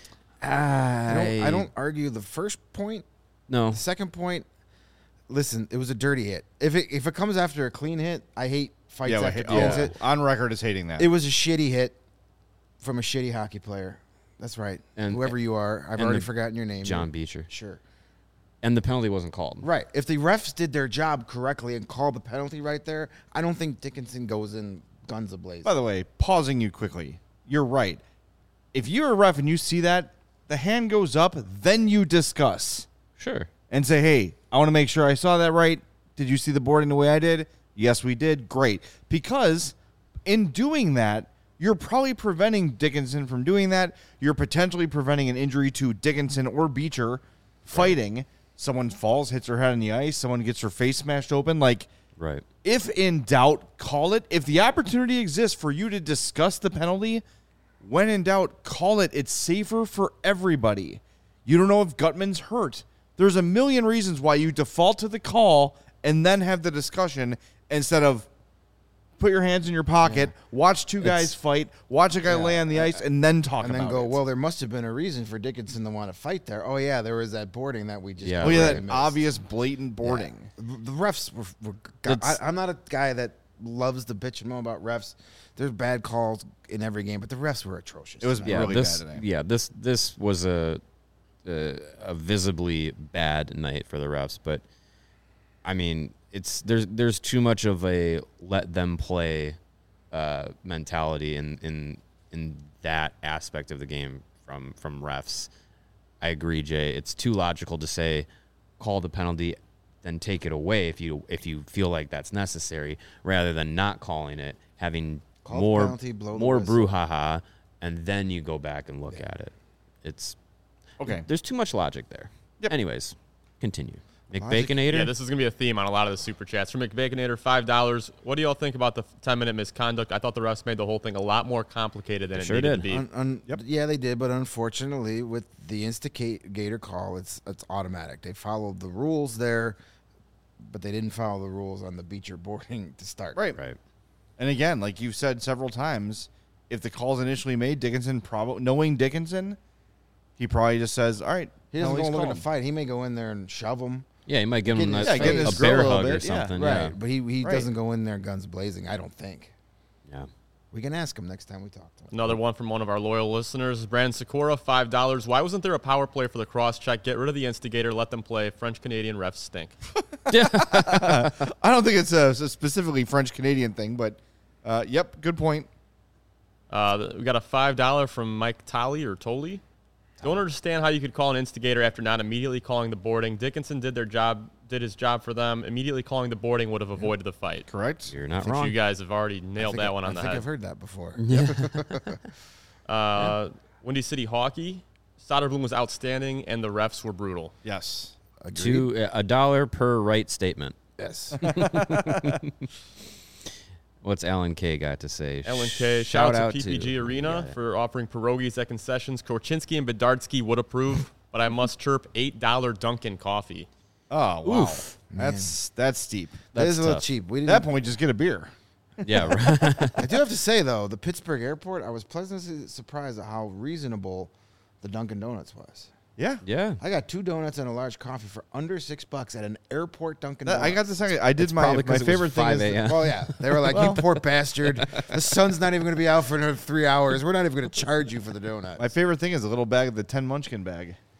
I don't, I don't argue the first point.
No.
The second point. Listen, it was a dirty hit. If it if it comes after a clean hit, I hate fights
Yeah,
after
hit,
clean
oh,
hit.
on record is hating that.
It was a shitty hit from a shitty hockey player. That's right.
And-
Whoever you are, I've
and
already
the-
forgotten your name.
John Beecher.
Sure.
And the penalty wasn't called.
Right. If the refs did their job correctly and called the penalty right there, I don't think Dickinson goes in guns ablaze.
By the way, pausing you quickly, you're right. If you're a ref and you see that, the hand goes up, then you discuss
Sure.
and say, hey, I want to make sure I saw that right. Did you see the boarding the way I did? Yes, we did. Great. Because in doing that, you're probably preventing Dickinson from doing that. You're potentially preventing an injury to Dickinson or Beecher fighting. Someone falls, hits her head on the ice. Someone gets her face smashed open. Like,
Right.
if in doubt, call it. If the opportunity exists for you to discuss the penalty, when in doubt, call it. It's safer for everybody. You don't know if Gutman's hurt. There's a million reasons why you default to the call and then have the discussion instead of put your hands in your pocket, watch two guys fight, watch a guy
Yeah,
lay on the ice, and then talk
and
about
then go,
it.
well, there must have been a reason for Dickinson to want to fight there. Oh, yeah, there was that boarding that we just
Yeah,
oh, yeah,
completely
that
missed.
obvious, blatant boarding.
Yeah. The refs were. were I,
It's-
I'm not a guy that loves to bitch and moan about refs. There's bad calls in every game, but the refs were atrocious.
It was
tonight.
Yeah.
really
this.
bad today.
Yeah. This. This was a, a a visibly bad night for the refs, but I mean, it's there's there's too much of a let them play uh, mentality in in in that aspect of the game from from refs. I agree, Jay. It's too logical to say call the penalty, then take it away if you if you feel like that's necessary, rather than not calling it, having
Call the
more
penalty, blow the
more
whistle.
brouhaha, and then you go back and look at it. It's
Okay.
there's too much logic there.
Yep.
Anyways, continue.
Logic-
McBaconator.
Yeah, this is going to be a theme on a lot of the super chats. From McBaconator, five dollars. What do y'all think about the ten-minute misconduct? I thought the refs made the whole thing a lot more complicated than
They
it
sure
needed
did.
to be.
Un, un,
Yep.
Yeah, they did, but unfortunately, with the instigator call, it's it's automatic. They followed the rules there, but they didn't follow the rules on the Beecher boarding to start.
Right.
right.
And again, like you've said several times, if the call's initially made, Dickinson probably knowing Dickinson, he probably just says, "All right."
He doesn't go
penalty's
looking to
called."
fight. He may go in there and shove him.
Yeah, you might give
Get
him
in
a,
his Yeah, get in
a
his grill
bear
a little
hug or
bit, yeah.
something.
Right.
Yeah.
But he, he
Right.
doesn't go in there guns blazing, I don't think.
Yeah.
We can ask him next time we talk to him.
Another one from one of our loyal listeners, Brandon Sikora, five dollars. Why wasn't there a power play for the cross check? Get rid of the instigator, let them play. French-Canadian refs stink.
I don't think it's a, a specifically French Canadian thing, but uh, yep, good point.
Uh, we got a five dollars from Mike Tolley or Tolley. Don't understand how you could call an instigator after not immediately calling the boarding. Dickinson did their job, did his job for them. Immediately calling the boarding would have avoided the fight.
Correct.
You're not
I think
wrong.
you guys have already
I
nailed
think
that
I-
one on
I
the
think
head.
I've heard that before.
Uh, Windy City Hockey. Soderblom was outstanding, and the refs were brutal.
Yes.
Agreed?
Two uh, a dollar per right statement.
Yes.
What's Alan K got to say?
Ellen K.
Shout
Shout out
out
to P P G
to-
Arena
yeah.
for offering pierogies at concessions. Korchinski and Bedardsky would approve, but I must chirp eight dollars Dunkin' coffee.
Oh wow,
Oof.
that's that's steep.
that
That's
is a little
tough.
cheap. We
At
didn't,
that point, just get a beer.
Yeah, right.
I do have to say, though, the Pittsburgh airport, I was pleasantly surprised at how reasonable the Dunkin' Donuts was.
Yeah.
yeah.
I got two donuts and a large coffee for under six bucks at an airport Dunkin'
That-
Donuts.
I got the second. I did
It's
my
probably
my
'cause it was
favorite thing
five
is
a m.
Well, yeah. They were like, you poor bastard. The sun's not even going to be out for another three hours. We're not even going to charge you for the donut.
my favorite thing is a little bag of the ten Munchkin bag.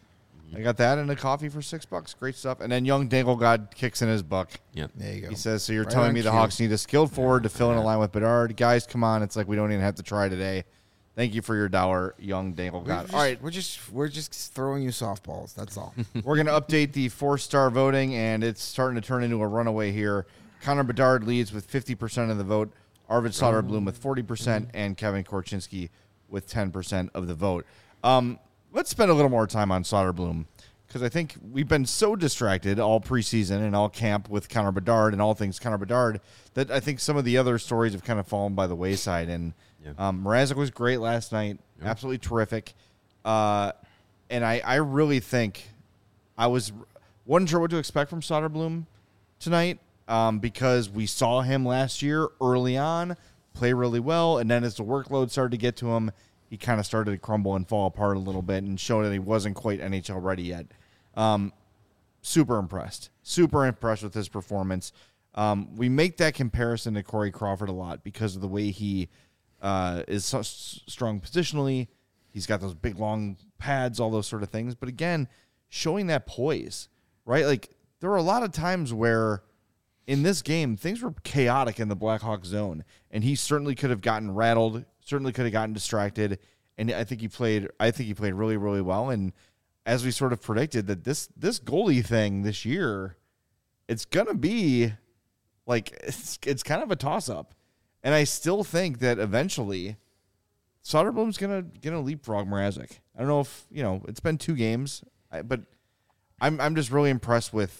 I got that and a coffee for six bucks. Great stuff. And then young Dangle God kicks in his buck.
Yep.
There you go.
He says, so you're
Right
telling
on
me the
cue.
Hawks need a skilled forward to fill in a line with Bedard? Guys, come on. It's like we don't even have to try today. Thank you for your dollar, young Dangle
We're
God.
just,
All right,
we're just we're just throwing you softballs. That's all.
we're going to update the four-star voting, and it's starting to turn into a runaway here. Connor Bedard leads with fifty percent of the vote, Arvid Soderblom with forty percent, and Kevin Korchinski with ten percent of the vote. Um, let's spend a little more time on Soderblom, because I think we've been so distracted all preseason and all camp with Connor Bedard and all things Connor Bedard that I think some of the other stories have kind of fallen by the wayside. And
Yeah.
um, Mrazek was great last night,
Yeah.
absolutely terrific. Uh, and I, I really think I was wasn't sure what to expect from Soderblom tonight um, because we saw him last year early on play really well, and then as the workload started to get to him, he kind of started to crumble and fall apart a little bit and showed that he wasn't quite N H L ready yet. Um, super impressed. Super impressed with his performance. Um, we make that comparison to Corey Crawford a lot because of the way he uh, is so s- strong positionally. He's got those big, long pads, all those sort of things. But again, showing that poise, right? Like, there were a lot of times where in this game, things were chaotic in the Blackhawks zone, and he certainly could have gotten rattled, certainly could have gotten distracted, and I think he played. I think he played really, really well. And as we sort of predicted, that this this goalie thing this year, it's gonna be like it's it's kind of a toss up, and I still think that eventually Soderblom's gonna gonna leapfrog Mrazek. I don't know if you know it's been two games, I- but I'm I'm just really impressed with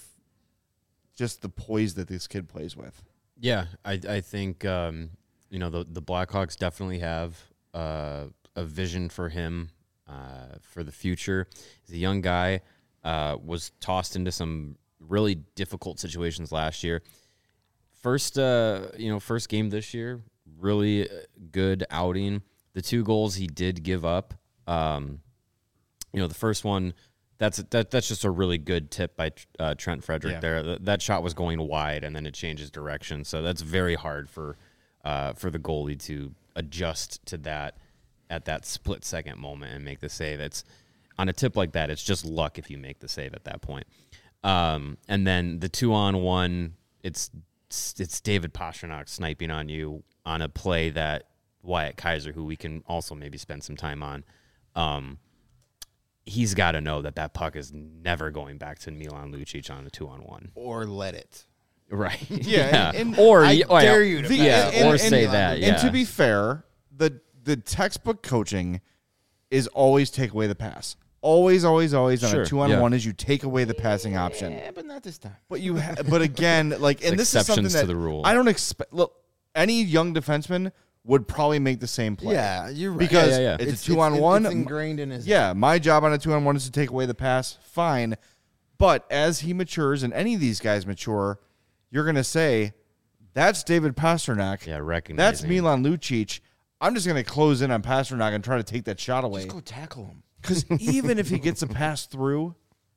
just the poise that this kid plays with.
Yeah, I I think um, you know the the Blackhawks definitely have uh, a vision for him uh, for the future. He's a young guy, uh, was tossed into some really difficult situations last year. First, uh, you know, first game this year, really good outing. The two goals he did give up, um, you know, the first one. That's that. That's just a really good tip by uh, Trent Frederick.
Yeah.
There, Th- that shot was going wide, and then it changes direction. So that's very hard for uh, for the goalie to adjust to that at that split second moment and make the save. It's on a tip like that. It's just luck if you make the save at that point. Um, and then the two on one, it's it's David Pastrnak sniping on you on a play that Wyatt Kaiser, who we can also maybe spend some time on. Um, He's got to know that that puck is never going back to Milan Lucic on a two-on-one.
Or let it.
Right.
Yeah, and- and
or
I
oh, yeah,
dare you to
the-
pass
yeah,
it.
or
And-
say
and-
that. Yeah.
And to be fair, the the textbook coaching is always take away the pass. Always, always, always on
Sure,
a two on
yeah.
one is you take away the passing option.
Yeah, but not this time.
But you, ha- but again, like, and this is something
exceptions
that
to the rule.
I don't expect. Look, any young defenseman would probably make the same play.
Yeah, you're right.
because
Yeah, yeah, yeah.
it's, a two on one.
It's ingrained in his.
Yeah, my job on a two on one is to take away the pass. Fine. But as he matures and any of these guys mature, you're going to say, that's David Pastrnak.
Yeah, recognizing.
That's Milan Lucic. I'm just going to close in on Pastrnak and try to take that shot away.
Just go tackle him.
Because even if he gets a pass through,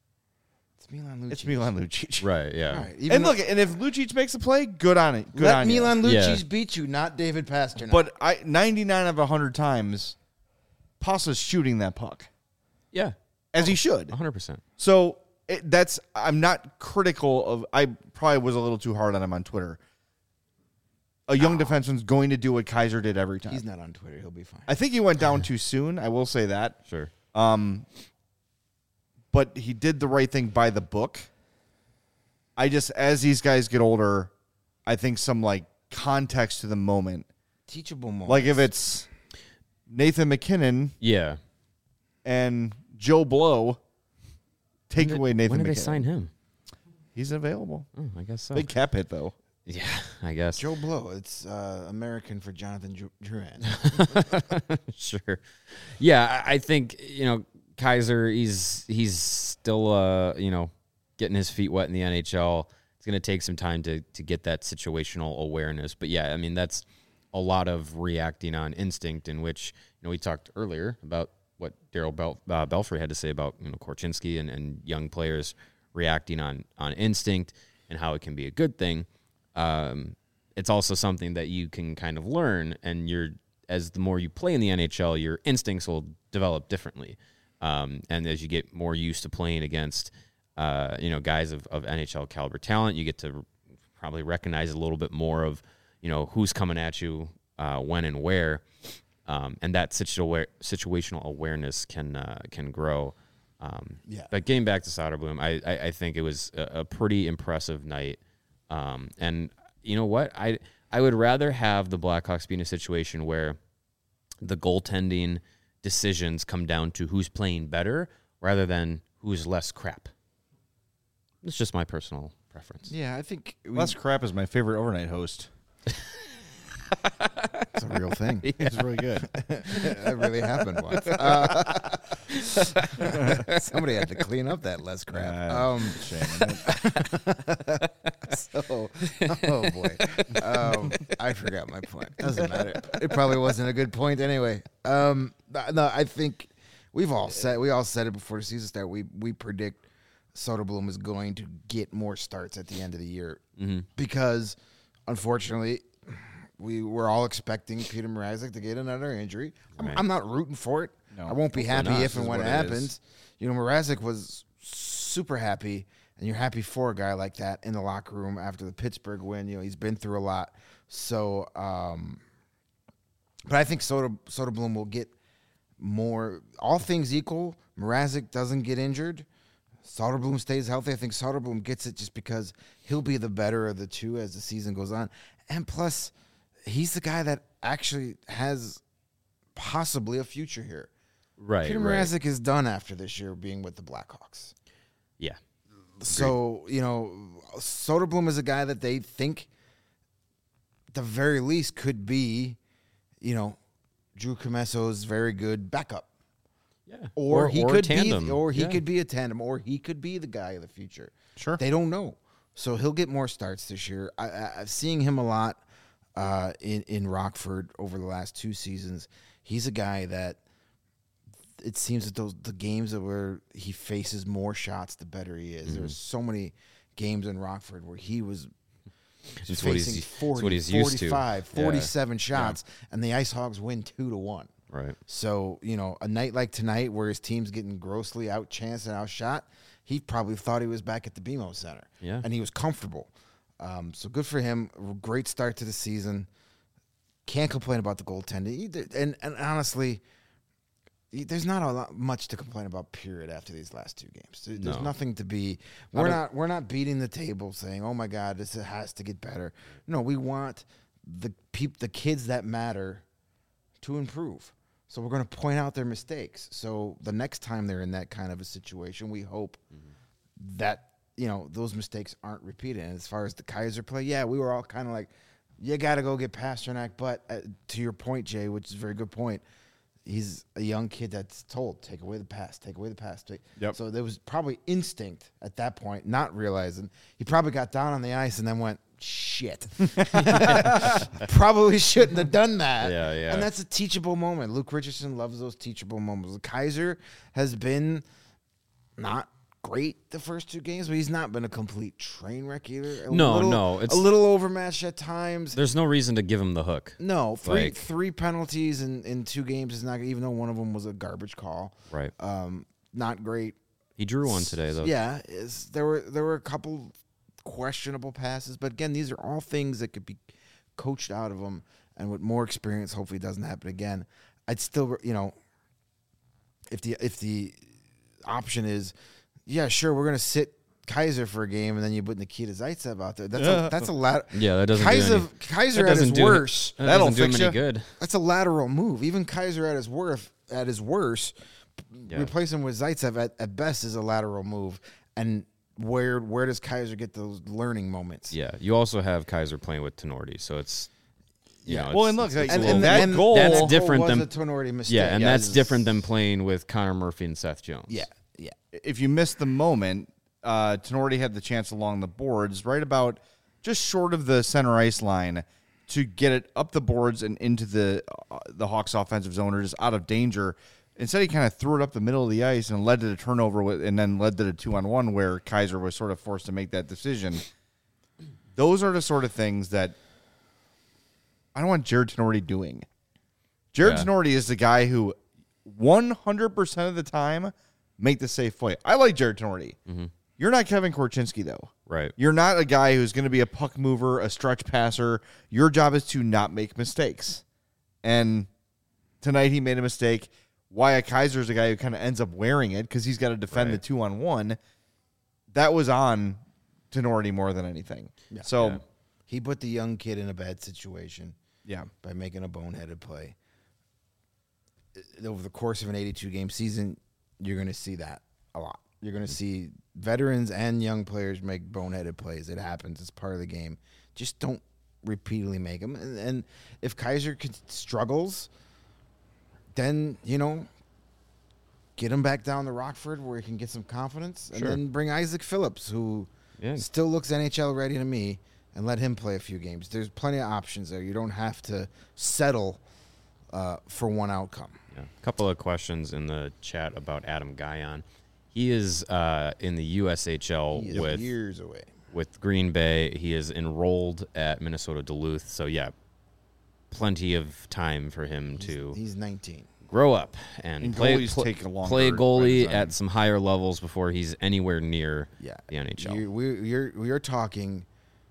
It's Milan Lucic.
it's Milan Lucic.
Right, yeah.
All right, even
And
though-
look, and if Lucic makes a play, good on it. Good
let
on
Milan
you.
Lucic
Yeah.
beat you, not David Pastrnak.
But I ninety-nine of one hundred times, Pasa's shooting that puck,
Yeah,
as he should.
one hundred percent.
So it, that's I'm not critical of. I probably was a little too hard on him on Twitter. A young defenseman's going to do what Kaiser did every time.
he's not on Twitter. He'll be fine.
I think he went down too soon. I will say that.
Sure.
Um, but he did the right thing by the book. I just, as these guys get older, I think some like context to the moment.
Teachable moment.
Like if it's Nathan McKinnon
Yeah.
and Joe Blow, take
When did-
away Nathan
When did
McKinnon.
they sign him?
He's available.
Oh, I guess so.
Big cap hit though.
Yeah, I guess.
Joe Blow. It's uh, American for Jonathan Ju- Drouin.
Sure. Yeah, I I think, you know, Kaiser, he's he's still uh, you know, getting his feet wet in the N H L. It's going to take some time to to get that situational awareness. But yeah, I mean, that's a lot of reacting on instinct, in which, you know, we talked earlier about what Daryl Bel- uh, Belfry had to say about, you know, Korchinski and, and young players reacting on on instinct and how it can be a good thing. Um, it's also something that you can kind of learn, and you're, as the more you play in the N H L, your instincts will develop differently. Um, and as you get more used to playing against, uh, you know, guys of, of N H L caliber talent, you get to probably recognize a little bit more of, you know, who's coming at you, uh, when and where. Um, and that situa- situational awareness can, uh, can grow. Um,
Yeah.
But getting back to Soderblom, I, I, I think it was a, a pretty impressive night. Um, and you know what? I, I would rather have the Blackhawks be in a situation where the goaltending decisions come down to who's playing better rather than who's less crap. It's just my personal preference.
Yeah, I think we,
Les Crap is my favorite overnight host.
it's a real thing.
It's really good.
That really happened once. Uh, somebody had to clean up that less crap.
Uh,
Um,
shame.
so, oh boy, um, I forgot my point. Doesn't matter. It probably wasn't a good point anyway. Um, no, I think we've all said we all said it before the season started. We we predict Soderblom is going to get more starts at the end of the year
Mm-hmm.
because, unfortunately, we were all expecting Peter Mrazek to get another injury. I'm,
Right.
I'm not rooting for it.
No,
I won't be happy
not.
if
This
and
is
when it
what it
happens.
is.
You know, Mrazek was super happy, and you're happy for a guy like that in the locker room after the Pittsburgh win. You know, he's been through a lot. So, um, but I think Soder, Soderblom will get more. All things equal, Mrazek doesn't get injured. Soderblom stays healthy. I think Soderblom gets it just because he'll be the better of the two as the season goes on. And plus, he's the guy that actually has possibly a future here.
Right.
Peter
right.
Mrazek is done after this year being with the Blackhawks.
Yeah.
So, you know, Soderblom is a guy that they think, at the very least, could be, you know, Drew Comesso's very good backup.
Yeah.
Or, he could
tandem.
be, or he
Yeah.
could be a tandem, or he could be the guy of the future.
Sure.
They don't know, so he'll get more starts this year. I, I, I've seen him a lot uh, in in Rockford over the last two seasons. He's a guy that it seems that those the games that where he faces more shots, the better he is. There's so many games in Rockford where he was
It's what he's-
facing
it's
forty,
what he's used to.
forty-five,
Yeah.
forty-seven shots, and the Ice Hogs win two to one.
Right.
So, you know, a night like tonight where his team's getting grossly outchanced and outshot, he probably thought he was back at the B M O Center.
Yeah.
And he was comfortable. Um, so good for him. Great start to the season. Can't complain about the goaltending. Either. And, and honestly, there's not a lot much to complain about, period, after these last two games. There- There's
No.
nothing to be we're not we're not beating the table saying, oh my God, this has to get better. No, we want the peop, the kids that matter to improve. So we're going to point out their mistakes. So the next time they're in that kind of a situation, we hope mm-hmm. that, you know, those mistakes aren't repeated. And as far as the Kaiser play, yeah, we were all kind of like, you got to go get Pasternak. But uh, to your point, Jay, which is a very good point, he's a young kid that's told, take away the pass, take away the pass. Take.
Yep.
So there was probably instinct at that point, not realizing. He probably got down on the ice and then went, shit. Probably shouldn't have done that.
Yeah, yeah.
And that's a teachable moment. Luke Richardson loves those teachable moments. Kaiser has been not great the first two games, but he's not been a complete train wreck either. A
No,
little,
no, it's-
a little overmatched at times.
There's no reason to give him the hook.
No, three
Like-
three penalties in, in two games is not, even though one of them was a garbage call.
Right.
Um, not great.
He drew one today, though.
Yeah, is there were there were a couple questionable passes, but again, these are all things that could be coached out of him, and with more experience, hopefully, it doesn't happen again. I'd still, you know, if the if the option is, yeah, sure, we're gonna sit Kaiser for a game, and then you put Nikita Zaitsev out there. That's a, that's a lat.
Yeah, that doesn't do
Kaiser
any-
Kaiser
that
at his
doesn't do-
worst.
That
That'll
doesn't do him
fix
any
ya.
good.
That's a lateral move. Even Kaiser at his worth, at his worst,
Yeah.
replace him with Zaitsev at, at best is a lateral move. And where where does Kaiser get those learning moments?
Yeah. You also have Kaiser playing with Tenorti, so it's you
Yeah.
know,
Well,
it's-
and look,
it's-
like,
it's a
and-
little-
and that goal-
that's
goal
different
was
than
a Tenorti mistake.
yeah, and
Yeah,
that's
it's-
different than playing with Connor Murphy and Seth Jones.
Yeah, yeah.
If you missed the moment, uh, Tenorti had the chance along the boards, right about just short of the center ice line, to get it up the boards and into the uh, the Hawks' offensive zone, or just out of danger. Instead, he kind of threw it up the middle of the ice and led to the turnover, with, and then led to the two on one where Kaiser was sort of forced to make that decision. Those are the sort of things that I don't want Jared Tenorti doing. Jared
Yeah.
Tenorti is the guy who one hundred percent of the time make the safe play. I like Jared Tenorti.
Mm-hmm.
You're not Kevin Korchinski, though.
Right.
You're not a guy who's going to be a puck mover, a stretch passer. Your job is to not make mistakes. And tonight he made a mistake. Wyatt Kaiser is a guy who kind of ends up wearing it because he's got to defend
Right.
the two-on-one. That was on Tenorti more than anything.
Yeah.
So,
Yeah.
He put the young kid in a bad situation
yeah.
by making a boneheaded play. Over the course of an eighty-two game season, you're going to see that a lot. You're going to see veterans and young players make boneheaded plays. It happens. It's part of the game. Just don't repeatedly make them. And, and if Kaiser could, struggles, then, you know, get him back down to Rockford where he can get some confidence.
Sure.
And then bring Isaac Phillips, who
Yeah.
still looks N H L ready to me, and let him play a few games. There's plenty of options there. You don't have to settle uh, for one outcome.
Yeah. A couple of questions in the chat about Adam Guyon. He is uh, in the U S H L
He is
with
years away.
with Green Bay. He is enrolled at Minnesota Duluth. So yeah, plenty of time for him
He's,
to
he's nineteen.
grow up and,
And
play
goalies
pl-
take a longer
play goalie
time.
at some higher levels before he's anywhere near
Yeah,
the N H L.
You're, we're you're we're talking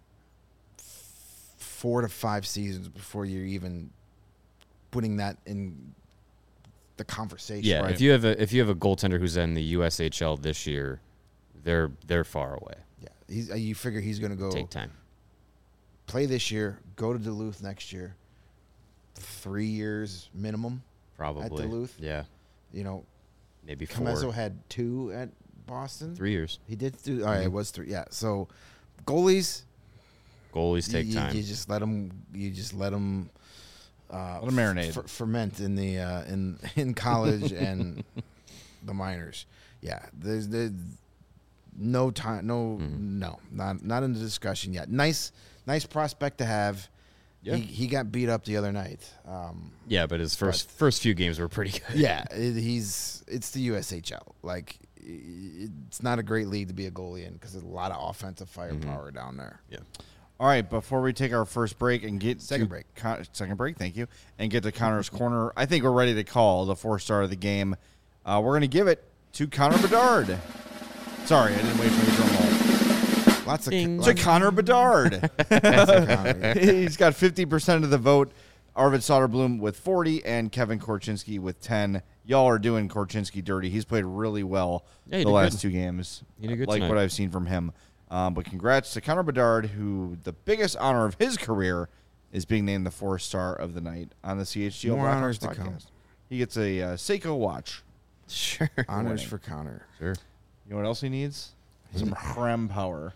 f- four to five seasons before you're even putting that in the conversation.
Yeah,
Right.
if you have a if you have a goaltender who's in the U S H L this year, they're they're far away.
yeah. He's, uh, you figure he's going to go
Take time.
play this year, go to Duluth next year, three years minimum.
Probably.
Duluth?
Yeah,
You know,
maybe four.
Camazo had two at Boston.
Three years.
He did do. All right, it was three. Yeah. So goalies,
Goalies take
you,
time.
You just let them. You just let them. Uh,
Let 'em marinate.
f- ferment in the uh, in in college and the minors. Yeah. There's there's no time. No.
Mm-hmm.
No. Not not in the discussion yet. Nice nice prospect to have.
Yeah.
He, he got beat up the other night. Um,
yeah, but his first first few games were pretty good.
yeah, it, he's it's the U S H L. Like i- it's not a great league to be a goalie in because there's a lot of offensive firepower down there.
Yeah.
All right, before we take our first break and get
Second
to
break.
Con- second break, thank you, and get to Connor's corner, I think we're ready to call the four star of the game. Uh, we're going to give it to Connor Bedard. Sorry, I didn't wait for the drum roll.
Lots of
Ding.
To
lots,
Connor Bedard.
lots of Connor.
He's got fifty percent of the vote. Arvid Soderblom with forty and Kevin Korchinski with ten. Y'all are doing Korchinski dirty. He's played really well
Yeah, he
the
did
last
good.
two games.
He did good
like
tonight.
what I've seen from him. Um, but congrats to Connor Bedard, who the biggest honor of his career is being named the four star of the night on the C H G O
More
Blackhawks
honors to
podcast.
come.
He gets a uh, Seiko watch.
Sure.
Honors
winning.
for Connor.
Sure.
You know what else he needs? Some Hrem power.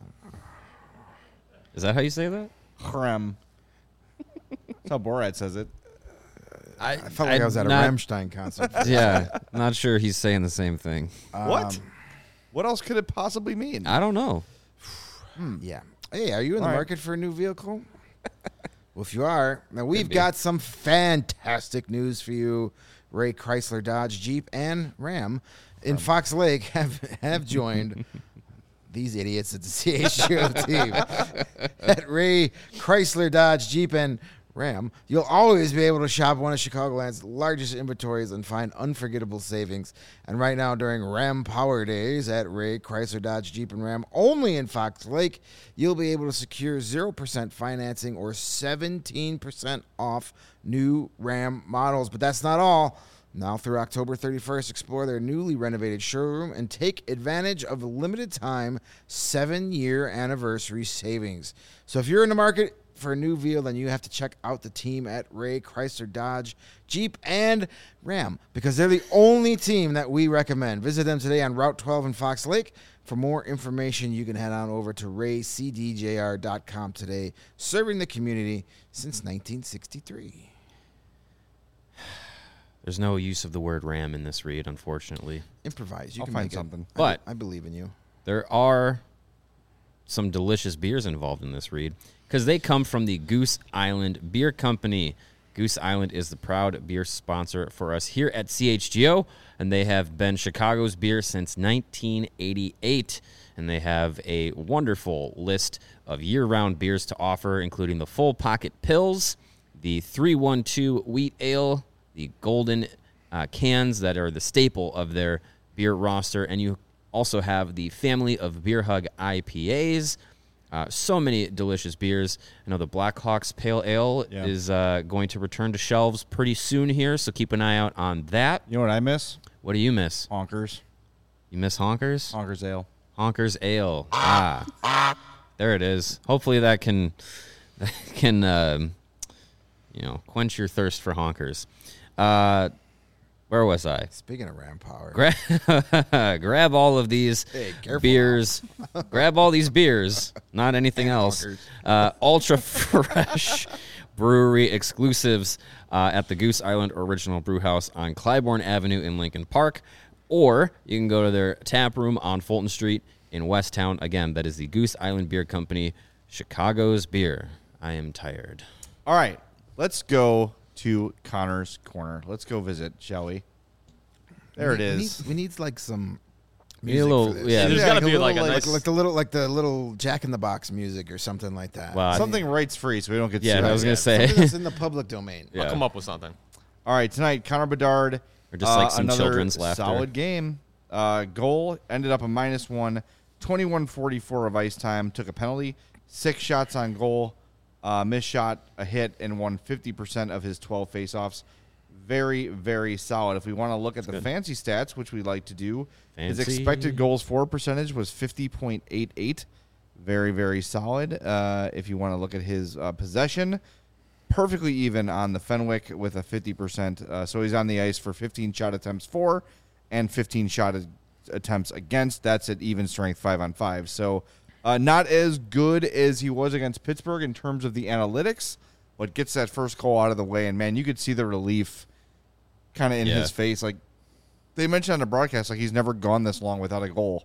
Is that how you say that?
Hrem. That's how Borat says it.
I,
I felt like I was at a
not,
Rammstein concert.
Yeah, not sure he's saying the same thing.
What?
Um,
What else could it possibly mean?
I don't know.
Yeah. Hey, are you in the
All right.
market for a new vehicle? Well, if you are, now we've
be.
got some fantastic news for you. Ray Chrysler, Dodge, Jeep, and Ram in Fox Lake have have joined these idiots at the C H G O team. At Ray Chrysler, Dodge, Jeep, and Ram, you'll always be able to shop one of Chicagoland's largest inventories and find unforgettable savings. And right now, during Ram Power Days at Ray Chrysler, Dodge, Jeep, and Ram, only in Fox Lake, you'll be able to secure zero percent financing or seventeen percent off new Ram models. But that's not all. Now through October thirty-first, explore their newly renovated showroom and take advantage of a limited time seven-year anniversary savings. So if you're in the market for a new vehicle, then you have to check out the team at Ray Chrysler, Dodge, Jeep, and Ram because they're the only team that we recommend. Visit them today on Route twelve in Fox Lake. For more information, you can head on over to ray c d j r dot com today, serving the community since nineteen sixty-three.
There's no use of the word ram in this read, unfortunately.
Improvise. You
I'll
can
find
make it.
something.
I-
But-
I believe in you.
There are some delicious beers involved in this read because they come from the Goose Island Beer Company. Goose Island is the proud beer sponsor for us here at C H G O, and they have been Chicago's beer since nineteen eighty-eight. And they have a wonderful list of year-round beers to offer, including the Full Pocket Pills, the three one two Wheat Ale, the Golden uh, cans that are the staple of their beer roster. And you also have the family of Beer Hug I P As. Uh, so many delicious beers. I know the Blackhawks Pale Ale
Yeah.
is uh, going to return to shelves pretty soon here, so keep an eye out on that.
You know what I miss?
What do you miss?
Honkers.
You miss Honkers?
Honkers Ale.
Honkers Ale. Ah, there it is. Hopefully that can that can um, you know quench your thirst for Honkers. Uh, where was I?
Speaking of Ram Power,
Grab, grab all of these
Hey, careful
beers. grab all these beers, not anything
And
else.
Honkers.
Uh, ultra fresh brewery exclusives uh, at the Goose Island Original Brew House on Clybourne Avenue in Lincoln Park, or you can go to their tap room on Fulton Street in Westtown. Again, that is the Goose Island Beer Company, Chicago's beer. I am tired.
All right, let's go to Connor's Corner. Let's go visit, shall we? There
we
it
need,
is.
We need, we need like some
We need a
music
little-
for this.
yeah,
there's gotta be
little,
like a
like,
nice-
like the little like the little Jack in the Box music or something like that.
Wow.
Something rights free, so we don't get
Yeah,
sued.
I was gonna
yeah.
say.
Something that's in the public domain.
Yeah.
I'll come up with something.
All right, tonight, Connor Bedard.
Or just like
uh,
some
another
children's laughter.
Solid game. Uh, goal ended up a minus one. twenty-one forty-four of ice time. Took a penalty. Six shots on goal. Uh, missed shot, a hit, and won fifty percent of his twelve faceoffs. Very, very solid. If we want to look at the
good.
fancy stats, which we like to do, his
Fancy.
expected goals for percentage was fifty point eight eight. Very, very solid. Uh, if you want to look at his uh, possession, perfectly even on the Fenwick with a fifty percent. Uh, so he's on the ice for fifteen shot attempts for and fifteen shot a- attempts against. That's at even strength five on five. So uh, not as good as he was against Pittsburgh in terms of the analytics, but gets that first goal out of the way. And, man, you could see the relief kind of in
Yeah.
his face. Like they mentioned on the broadcast, like he's never gone this long without a goal.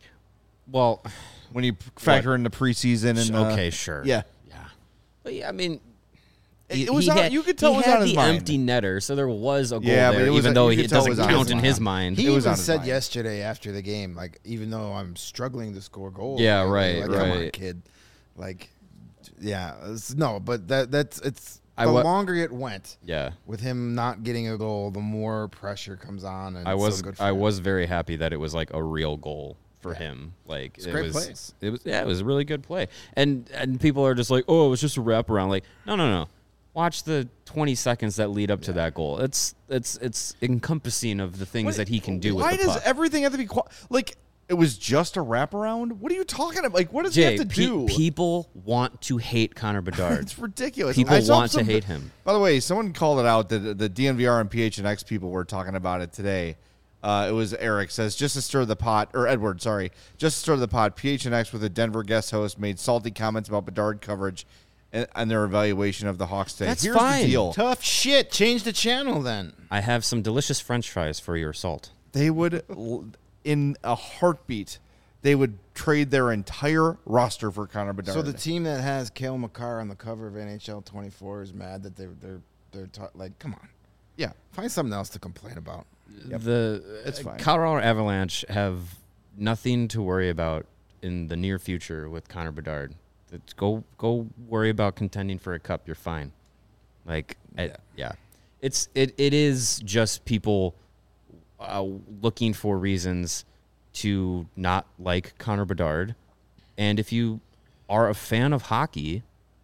Well,
When you factor in the preseason and uh,
okay, sure.
yeah.
Yeah. But yeah, I mean,
It-
he-
it was
he
on-
had-
you could tell
he
it was
had
on his
the
mind.
empty netter, so there was a goal
Yeah, but
there,
it was
even
a-
though
you
he-
could
it
tell it
doesn't
was on
count
his
in
mind.
his mind.
He
It was
even
on his
said
mind.
yesterday after the game, like, even though I'm struggling to score goals.
Yeah,
like,
right,
like, Come on,
right.
kid. Like, yeah, it's, no, but that that's it's
I
the
wa-
longer it went
yeah.
with him not getting a goal, the more pressure comes on. And
I
it's
was
so good for
I
him.
was very happy that it was like a real goal for him. Like
It's a
it
great
was
play.
it was yeah, it was a really good play. And and people are just like, "Oh, it was just a wraparound." Like, no, no, no. Watch the twenty seconds that lead up to that goal. It's it's it's encompassing of the things
What-
that he can do
Why
with the
does
puck.
everything have to be qua- like? It was just a wraparound. What are you talking about? Like, what does
Jay,
he have to
pe-
do?
people want to hate Connor Bedard.
It's ridiculous.
People
I saw
want to
some-
hate him.
By the way, someone called it out. The the D N V R and P H N X people were talking about it today. Uh, it was Eric says just to stir the pot, or Edward, sorry, just to stir the pot. P H N X with a Denver guest host made salty comments about Bedard coverage and, and their evaluation of the Hawks today.
That's
Here's
fine.
the deal:
Tough shit. Change the channel then.
I have some delicious French fries for your salt.
they would, l- in a heartbeat, they would trade their entire roster for Connor Bedard.
So the team that has Cale Makar on the cover of N H L twenty-four is mad that they're they're they're ta- like, come on,
yeah,
find something else to complain about.
The
It's
uh,
fine.
Colorado Avalanche have nothing to worry about in the near future with Connor Bedard. It's go go worry about contending for a cup. You're fine. Like I- yeah, it's it it is just people uh, looking for reasons to not like Connor Bedard, and if you are a fan of hockey,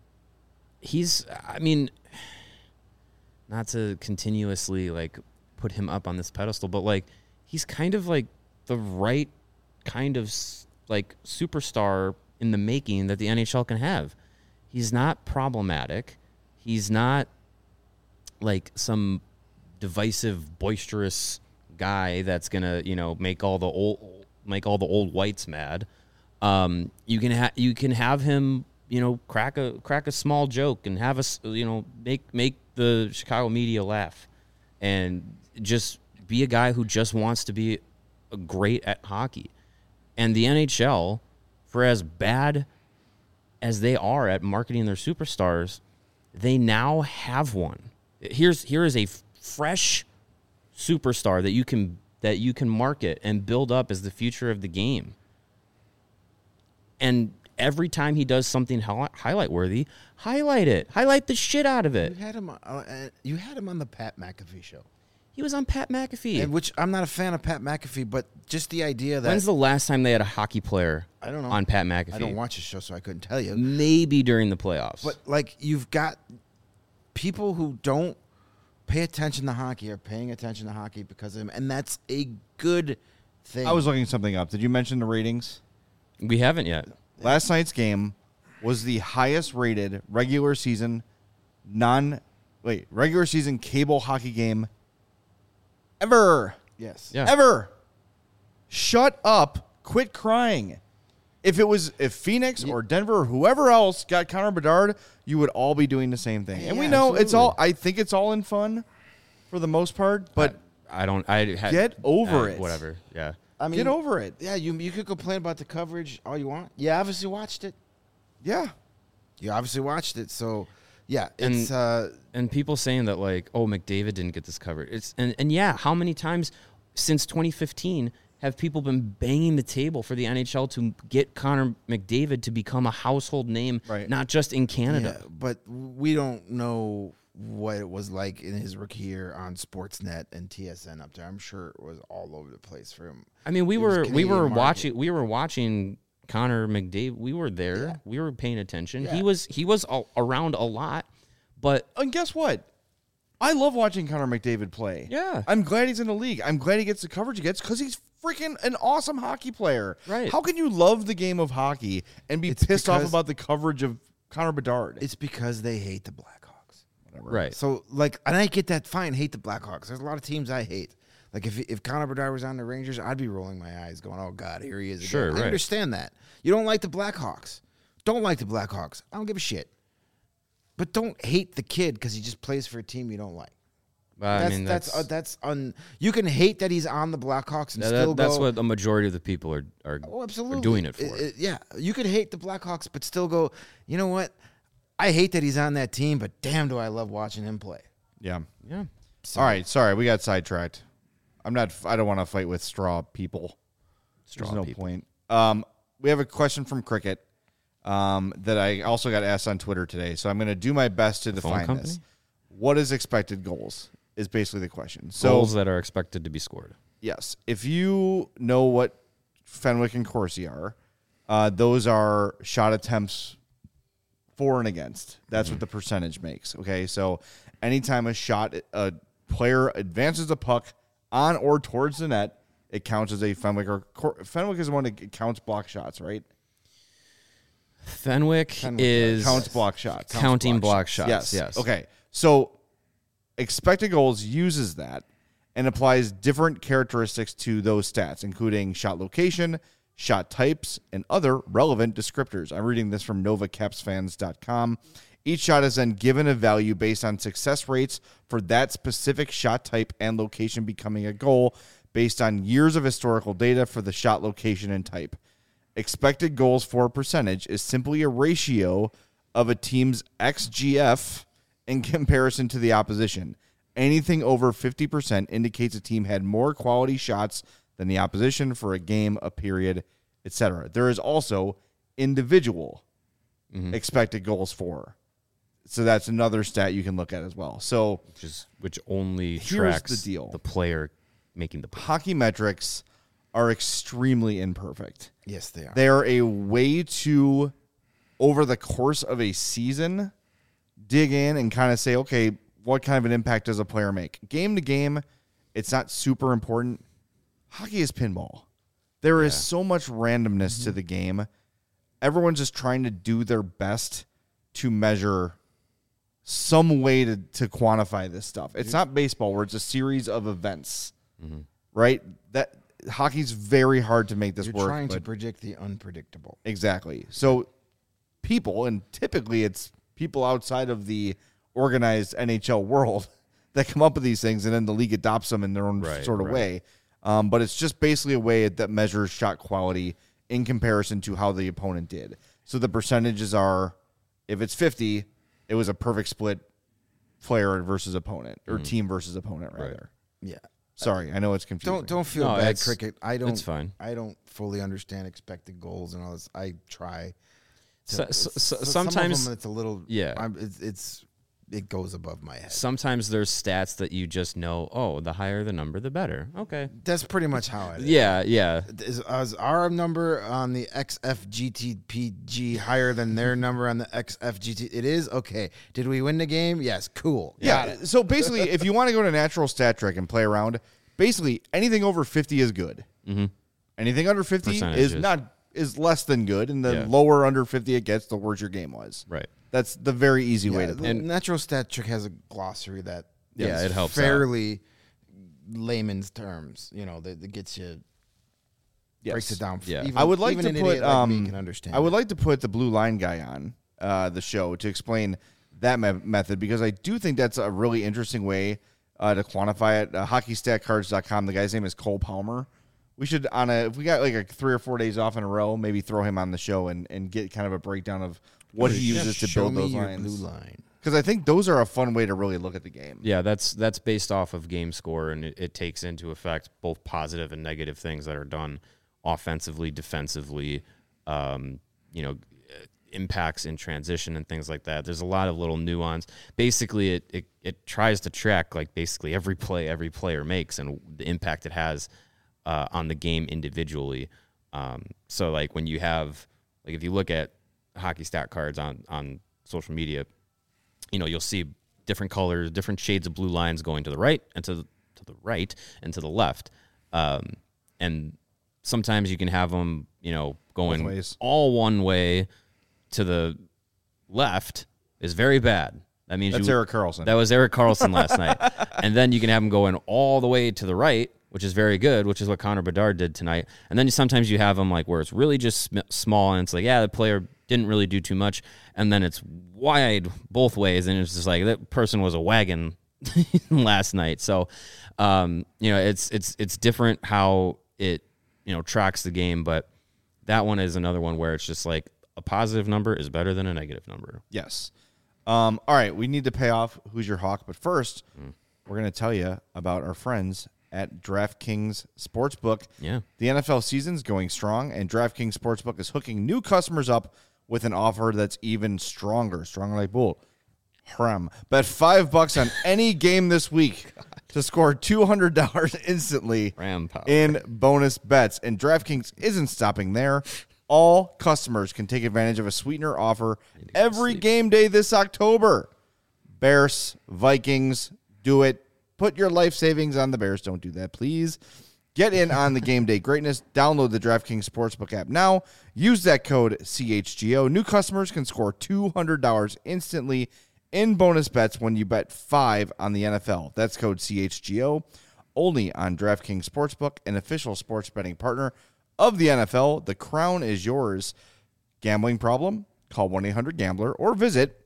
he's I mean, not to continuously like put him up on this pedestal, but like he's kind of like the right kind of s- like superstar in the making that the N H L can have. He's not problematic. He's not like some divisive, boisterous guy that's gonna, you know, make all the old make all the old whites mad. Um, you can ha- you can have him, you know, crack a crack a small joke and have us, you know, make make the Chicago media laugh, and just be a guy who just wants to be great at hockey. And the N H L, for as bad as they are at marketing their superstars, they now have one. Here's here is a f- fresh superstar that you can that you can market and build up as the future of the game. And every time he does something hi- highlight worthy, highlight it, highlight the shit out of
You
it.
had him. Uh, uh, you had him on the Pat McAfee show.
He was on Pat McAfee.
And which I'm not a fan of Pat McAfee, but just the idea that
When's the last time they had a hockey player
I don't know.
on Pat McAfee?
I don't watch his show, so I couldn't tell you.
Maybe during the playoffs.
But like you've got people who don't pay attention to hockey are paying attention to hockey because of him, and that's a good thing.
I was looking something up. Did you mention the ratings?
we haven't yet.
Last night's game was the highest rated regular season non wait, regular season cable hockey game ever.
yes.
Yeah.
Ever. Shut up. Quit crying. If it was if Phoenix or Denver or whoever else got Connor Bedard, you would all be doing the same thing. And we
Yeah,
know it's all
absolutely.
I think it's all in fun for the most part, but
I don't. I had,
Get over
uh,
it.
Whatever. Yeah.
I mean,
get over it.
Yeah, you you could complain about the coverage all you want. You obviously watched it.
Yeah.
You obviously watched it. So, yeah,
And-
it's uh,
And people saying that like, oh, McDavid didn't get this covered. It's and, and yeah, how many times since twenty fifteen have people been banging the table for the N H L to get Connor McDavid to become a household name,
Right.
not just in Canada?
yeah, but we don't know what it was like in his rookie year on Sportsnet and T S N up there. I'm sure it was all over the place for him.
I mean, we
It was
were we
Canadian
were
market.
watching we were watching Connor McDavid. We were there.
Yeah.
We were paying attention.
Yeah.
He was he was a, around a lot, but
And guess what? I love watching Connor McDavid play.
Yeah.
I'm glad he's in the league. I'm glad he gets the coverage he gets because he's freaking an awesome hockey player.
Right.
How can you love the game of hockey and be
It's
pissed off
because-
about the coverage of Connor Bedard?
It's because they hate the Blackhawks.
right.
So, like, and I get that. Fine, hate the Blackhawks. There's a lot of teams I hate. Like, if if Connor Bedard was on the Rangers, I'd be rolling my eyes, going, "Oh God, here he is." Again.
Sure,
I
right.
understand that. You don't like the Blackhawks. Don't like the Blackhawks. I don't give a shit. But don't hate the kid because he just plays for a team you don't like.
I
That's
mean,
that's
that's
uh, that's un. You can hate that he's on the Blackhawks and
that-
still
that's
go.
what the majority of the people are are,
Oh,
are
absolutely.
doing it for.
It- it- yeah, you could hate the Blackhawks, but still go. You know what? I hate that he's on that team, but damn, do I love watching him play.
yeah.
yeah.
All right. Sorry, we got sidetracked. I'm not. I don't want to fight with straw people.
Straw
There's no
people.
point. Um, we have a question from Cricket um, that I also got asked on Twitter today. So I'm going to do my best to
phone
define
company?
this. What is expected goals? Is basically the question. So
Goals that are expected to be scored.
yes, if you know what Fenwick and Corsi are, uh, those are shot attempts for and against. That's what the percentage makes. Okay, so anytime a shot, a player advances a puck on or towards the net, it counts as a Fenwick or Cor- Fenwick is the one that counts block shots, right?
Fenwick,
Fenwick
is
Counts block shots.
counting block shots.
Yes.
Yes.
Okay. So expected goals uses that and applies different characteristics to those stats, including shot location, shot types, and other relevant descriptors. I'm reading this from Nova Caps Fans dot com. Each shot is then given a value based on success rates for that specific shot type and location becoming a goal based on years of historical data for the shot location and type. Expected goals for percentage is simply a ratio of a team's X G F in comparison to the opposition. Anything over fifty percent indicates a team had more quality shots than the opposition for a game, a period, et cetera. There is also individual expected goals for. So that's another stat you can look at as well. So
Which is which only
Here's
tracks
the deal.
the player making the play.
hockey metrics are extremely imperfect.
Yes, they are.
They are a way to, over the course of a season, dig in and kind of say, okay, what kind of an impact does a player make? Game to game, it's not super important. Hockey is pinball. There is so much randomness to the game. Everyone's just trying to do their best to measure some way to, to quantify this stuff. It's not baseball where it's a series of events, right? That hockey's very hard to make this
You're
work.
trying to
but-
predict the unpredictable.
Exactly. So people, and typically it's people outside of the organized N H L world that come up with these things, and then the league adopts them in their own
Right,
sort of
right.
way. Um, but it's just basically a way that measures shot quality in comparison to how the opponent did. So the percentages are, if it's fifty, it was a perfect split player versus opponent, or team versus opponent, rather.
Yeah.
Sorry, I know it's confusing.
Don't don't feel
No,
bad,
it's-
Cricket. I don't.
it's fine.
I don't fully understand expected goals and all this. I try. to-
So- so- so-
some of
sometimes-
them it's a little.
Yeah.
I'm, it's, it's it goes above my head.
Sometimes there's stats that you just know, oh, the higher the number, the better. Okay.
That's pretty much how it is.
Yeah, yeah.
Is, is our number on the X F G T P G higher than their number on the X F G T? It is? Okay. Did we win the game? Yes. Cool. Got
Yeah.
it.
So basically, if you want to go to Natural Stat Trick and play around, basically anything over fifty is good.
Mm-hmm.
Anything under fifty is
Percentages.
not is less than good, and the
Yeah.
lower under fifty it gets, the worse your game was.
Right.
That's the very easy way
Yeah,
to put
the
it.
Natural Stat Trick has a glossary that
Yeah,
is
it helps out.
fairly layman's terms. You know, that, that gets you breaks it down.
Yeah.
Even,
I would like
even
to
an
put
idiot like me
um,
can understand.
I would
it.
like to put the blue line guy on uh, the show to explain that me- method because I do think that's a really interesting way uh, to quantify it. Uh, hockey stat cards dot com. The guy's name is Cole Palmer. We should on a if we got like a three or four days off in a row, maybe throw him on the show and, and get kind of a breakdown of what he
Yeah,
uses to
show
build
me
those
your
lines.
blue line.
Because I think those are a fun way to really look at the game.
Yeah, that's that's based off of game score, and it, it takes into effect both positive and negative things that are done offensively, defensively, um, you know, impacts in transition and things like that. There's a lot of little nuance. Basically, it, it it tries to track like basically every play every player makes and the impact it has uh, on the game individually. Um, so like when you have like if you look at hockey stat cards on on social media, you know, you'll see different colors, different shades of blue lines going to the right and to the, to the right and to the left. Um, and sometimes you can have them, you know, going
Both ways.
all one way to the left is very bad. That means
That's
you,
Erik Karlsson.
That was Erik Karlsson last night. And then you can have them going all the way to the right, which is very good, which is what Connor Bedard did tonight. And then sometimes you have them like where it's really just sm- small and it's like, yeah, the player didn't really do too much. And then it's wide both ways. And it's just like that person was a wagon last night. So, um, you know, it's, it's, it's different how it, you know, tracks the game. But that one is another one where it's just like a positive number is better than a negative number.
Yes. Um, all right, we need to pay off Who's Your Hawk, but first, mm. we're going to tell you about our friends at DraftKings Sportsbook.
Yeah.
The N F L season's going strong, and DraftKings Sportsbook is hooking new customers up with an offer that's even stronger. Stronger like bull. Haram. Bet five bucks on any game this week to score two hundred dollars instantly
Ram power.
in bonus bets. And DraftKings isn't stopping there. All customers can take advantage of a sweetener offer every game day this October. Bears, Vikings, do it. Put your life savings on the Bears. Don't do that, please. Get in on the game day greatness. Download the DraftKings Sportsbook app now. Use that code C H G O. New customers can score two hundred dollars instantly in bonus bets when you bet five on the N F L. That's code C H G O. Only on DraftKings Sportsbook, an official sports betting partner of the N F L. The crown is yours. Gambling problem? Call one eight hundred gambler or visit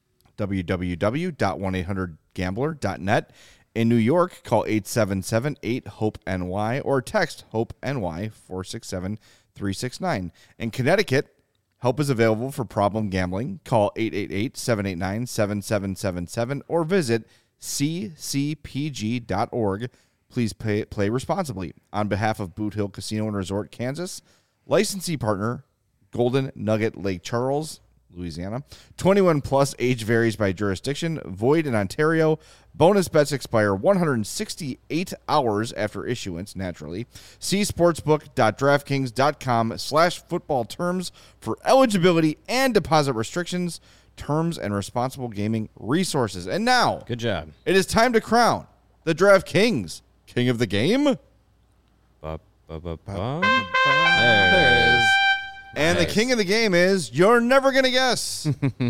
w w w dot one eight hundred gambler dot net. In New York, call eight seven seven eight hope N Y or text HOPE-NY four six seven three six nine. In Connecticut, help is available for problem gambling. Call eight eight eight seven eight nine seven seven seven seven or visit c c p g dot org. Please pay, play responsibly. On behalf of Boot Hill Casino and Resort, Kansas, licensee partner, Golden Nugget Lake Charles, Louisiana. twenty-one plus, age varies by jurisdiction. Void in Ontario. Bonus bets expire one hundred sixty-eight hours after issuance, naturally. See sportsbook.draftkings.com slash football terms for eligibility and deposit restrictions, terms, and responsible gaming resources. And now,
Good job.
it is time to crown the DraftKings King of the Game.
Ba, ba, ba, ba. There it is.
And
Nice.
the king of the game is, you're never going to guess,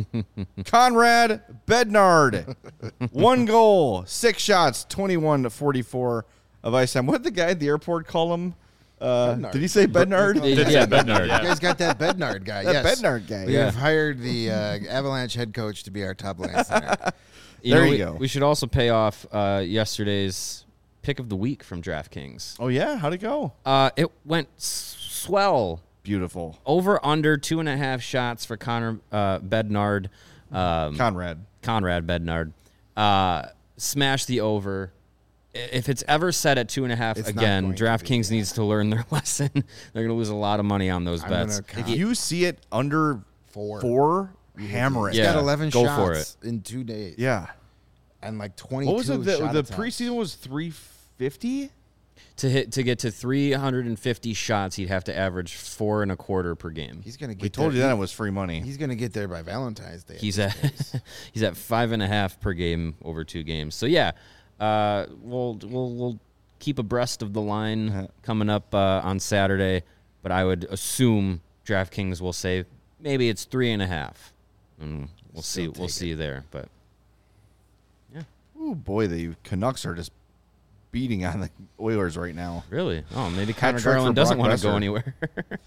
Conrad Bednard. One goal, six shots, twenty-one to forty-four of ice time. What did the guy at the airport call him? Uh,
Bednard.
did he say Bednard?
Yeah, yeah, Bednard.
You guys got that Bednard guy.
That
yes.
Bednard guy.
We
Yeah.
have hired the uh, Avalanche head coach to be our top line center.
You
There
know,
you
we,
go.
We should also pay off uh, yesterday's pick of the week from DraftKings.
Oh, yeah? How'd it go?
Uh, it went s- swell.
Beautiful.
Over under two and a half shots for Connor uh, Bednard. Um,
Conrad.
Conrad Bednard. Uh, smash the over. I- If it's ever set at two and a half
It's not
again,
going to be,
DraftKings needs to learn their lesson. They're going to lose a lot of money on those
I'm
bets.
gonna count.
If you see it under
Four.
four, hammer it.
He's got
Yeah,
eleven
go
shots
for it.
in two days.
Yeah.
And like twenty-two
What was it? The,
shot
the
attempts.
preseason was three fifty.
To hit to get to three hundred fifty shots, he'd have to average four and a quarter per game.
He's gonna get.
We told
there.
you that it was free money.
He's gonna get there by Valentine's Day.
He's at he's at five and a half per game over two games. So yeah, uh, we'll we'll we'll keep abreast of the line
Uh-huh.
coming up uh, on Saturday. But I would assume DraftKings will say maybe it's three and a half, and we'll see.
Still
We'll
take
see there. But
Oh boy, the Canucks are just beating on the Oilers right now.
really, oh maybe Connor
trick for
Garland doesn't
Brock
want to go
Lesnar.
anywhere.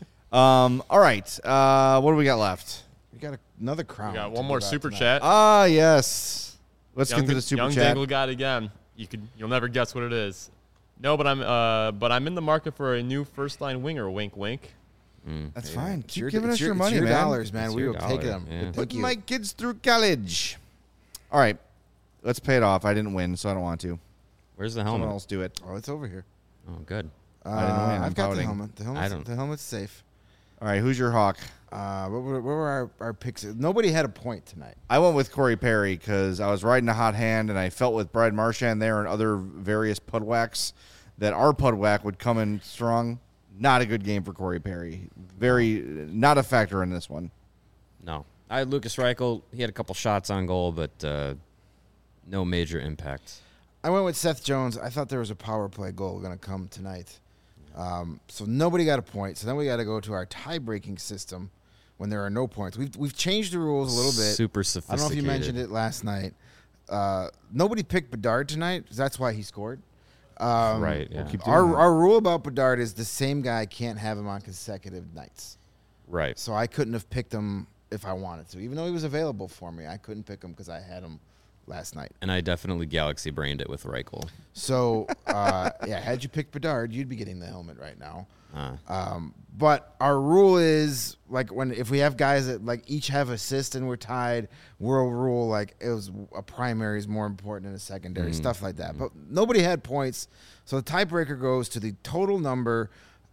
Um. All right. Uh. What do we got left?
We got a, another crown.
We got
to
one
give
more
out
super
tonight.
chat.
Ah, yes. Let's
young,
get to the super
young
chat.
Dangle got it again. You could, you'll never guess what it is. No, but I'm, uh, but I'm in the market for a new first line winger. Wink, wink.
That's
Yeah,
fine.
it's
Keep
your-
giving
it's
us your,
it's
money,
your
man.
dollars, man.
It's
we
your
will take
dollar,
them.
yeah.
Thank
Put
you.
my kids through college. All right. Let's pay it off. I didn't win, so I don't want to.
Where's the
Someone
helmet?
else do it.
Oh, it's over here.
Oh, good.
Uh,
I didn't win. I'm
I've got
pouting.
the helmet. The helmet's,
I don't-
the helmet's safe.
All right. Who's your hawk?
Uh, what were, what were our, our picks? Nobody had a point tonight.
I went with Corey Perry because I was riding a hot hand, and I felt with Brad Marchand there and other various pudwacks that our pudwack would come in strong. Not a good game for Corey Perry. Very not a factor in this one.
No, I had Lucas Reichel. He had a couple shots on goal, but uh, no major impact.
I went with Seth Jones. I thought there was a power play goal going to come tonight. Um, so nobody got a point. So then we got to go to our tie-breaking system when there are no points. We've we've changed the rules a little bit.
Super
I
sophisticated.
don't know if you mentioned it last night. Uh, nobody picked Bedard tonight. 'Cause that's why he scored. Um,
Right. Yeah.
keep doing
Our
that.
our rule about Bedard is the same guy can't have him on consecutive nights.
Right.
So I couldn't have picked him if I wanted to, even though he was available for me. I couldn't pick him because I had him last night.
And I definitely galaxy brained it with Reichel.
So uh, yeah, had you picked Bedard, you'd be getting the helmet right now.
Uh,
Um, but our rule is like when if we have guys that like each have assists and we're tied, we'll rule like it was a primary is more important than a secondary, stuff like that. But nobody had points, so the tiebreaker goes to the total number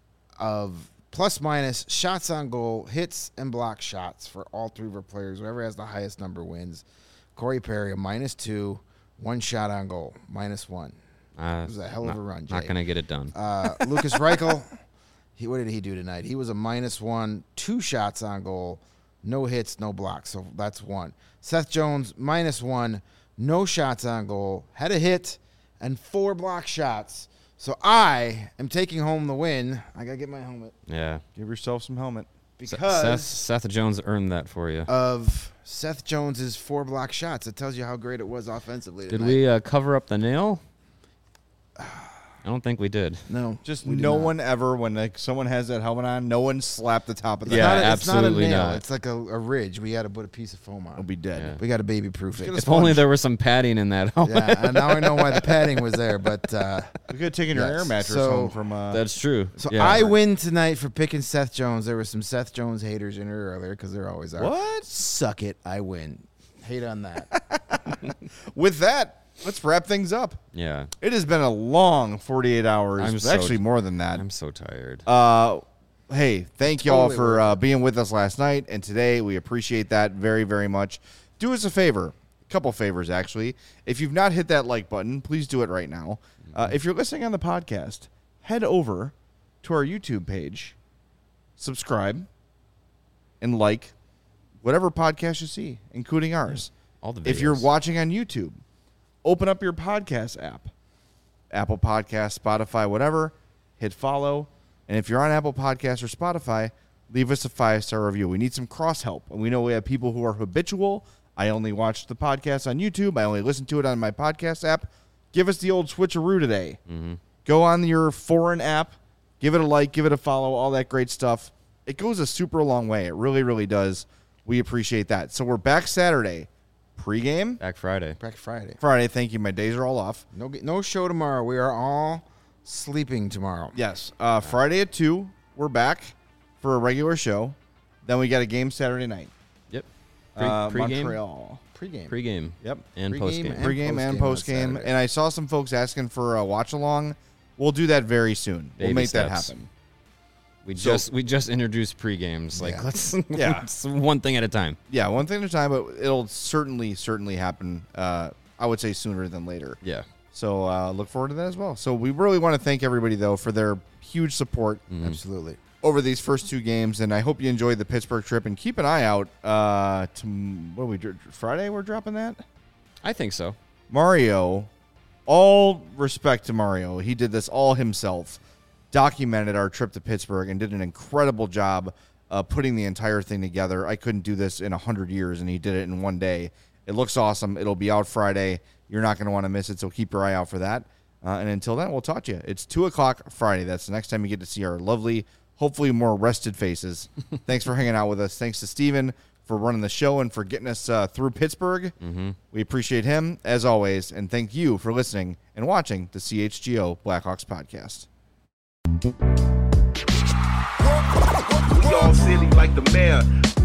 of plus minus shots on goal, hits and block shots for all three of our players. Whoever has the highest number wins. Corey Perry a minus two, one shot on goal, minus one.
uh,
It was a hell of
not,
a run,
Not
Jay.
gonna get it done.
Uh, Lucas Reichel, he what did he do tonight? He was a minus one, two shots on goal, no hits, no blocks. So that's one. Seth Jones minus one, no shots on goal, had a hit and four block shots. So I am taking home the win. I gotta get my helmet
yeah.
Give yourself some helmet.
because
Seth, Seth Jones earned that for you.
of Seth Jones's four block shots. It tells you how great it was offensively.
Did
tonight.
we uh, cover up the nail? I don't think we did.
No,
Just
we did
no
not.
one ever, when like someone has that helmet on, no one slapped the top of the
Yeah,
head.
Not a- it's
absolutely
not. A nail.
not.
It's like a, a ridge. We got to put a piece of foam on.
I'll be dead.
Yeah.
We got to baby proof it.
Get a
If only
sponge.
there was some padding in that helmet.
Yeah, and now I know why the padding was there. But uh,
We could have taken your
Yes.
air mattress
So-
home from. Uh,
That's true.
so
Yeah.
I win tonight for picking Seth Jones. There were some Seth Jones haters in here earlier because there always are.
What?
Suck it, I win. Hate on that.
With that, let's wrap things up.
Yeah.
It has been a long forty-eight hours.
I'm
It's
so-
actually more than that.
I'm so tired.
Uh, hey, thank y'all
Totally
for
worth
uh, being with us last night and today. We appreciate that very, very much. Do us a favor, a couple favors actually. If you've not hit that like button, please do it right now. Uh, if you're listening on the podcast, head over to our YouTube page, subscribe, and like whatever podcast you see, including ours.
All the
If you're
videos.
watching on YouTube, open up your podcast app, Apple Podcasts, Spotify, whatever, hit follow. And if you're on Apple Podcasts or Spotify, leave us a five-star review. We need some cross-help. And we know we have people who are habitual. I only watch the podcast on YouTube. I only listen to it on my podcast app. Give us the old switcheroo today.
Mm-hmm.
Go on your foreign app, give it a like, give it a follow, all that great stuff. It goes a super long way. It really, really does. We appreciate that. So we're back Saturday. Pre-game?
Back Friday.
Back Friday.
Friday. Thank you. My days are all off.
No, no show tomorrow. We are all sleeping tomorrow.
Yes. Uh, Friday at two, we're back for a regular show. Then we got a game Saturday night.
Yep. Pre,
Uh,
pre-game.
Montreal.
Pre-game.
Pre-game.
Yep.
And
Pre-game
post-game.
and
Pre-game and
postgame on
post-game.
Saturday.
And I saw some folks asking for a watch-along. We'll do that very soon.
Baby
we'll make that
steps.
happen.
We
So-
just we just introduced pre-games. Like
Yeah.
let's
Yeah.
let's one thing at a time.
Yeah, one thing at a time, but it'll certainly, certainly happen. Uh, I would say sooner than later.
Yeah.
So uh, look forward to that as well. So we really want to thank everybody, though, for their huge support
Absolutely.
over these first two games. And I hope you enjoyed the Pittsburgh trip. And keep an eye out. Uh, to, what are we, dr- Friday we're dropping that?
I think so.
Mario, all respect to Mario. He did this all himself, documented our trip to Pittsburgh, and did an incredible job uh, putting the entire thing together. I couldn't do this in one hundred years, and he did it in one day. It looks awesome. It'll be out Friday. You're not going to want to miss it, so keep your eye out for that. Uh, and until then, we'll talk to you. It's two o'clock Friday. That's the next time you get to see our lovely, hopefully more rested faces. Thanks for hanging out with us. Thanks to Steven for running the show and for getting us uh, through Pittsburgh. Mm-hmm. We appreciate him, as always, and thank you for listening and watching the C H G O Blackhawks podcast.
We all silly like the mayor.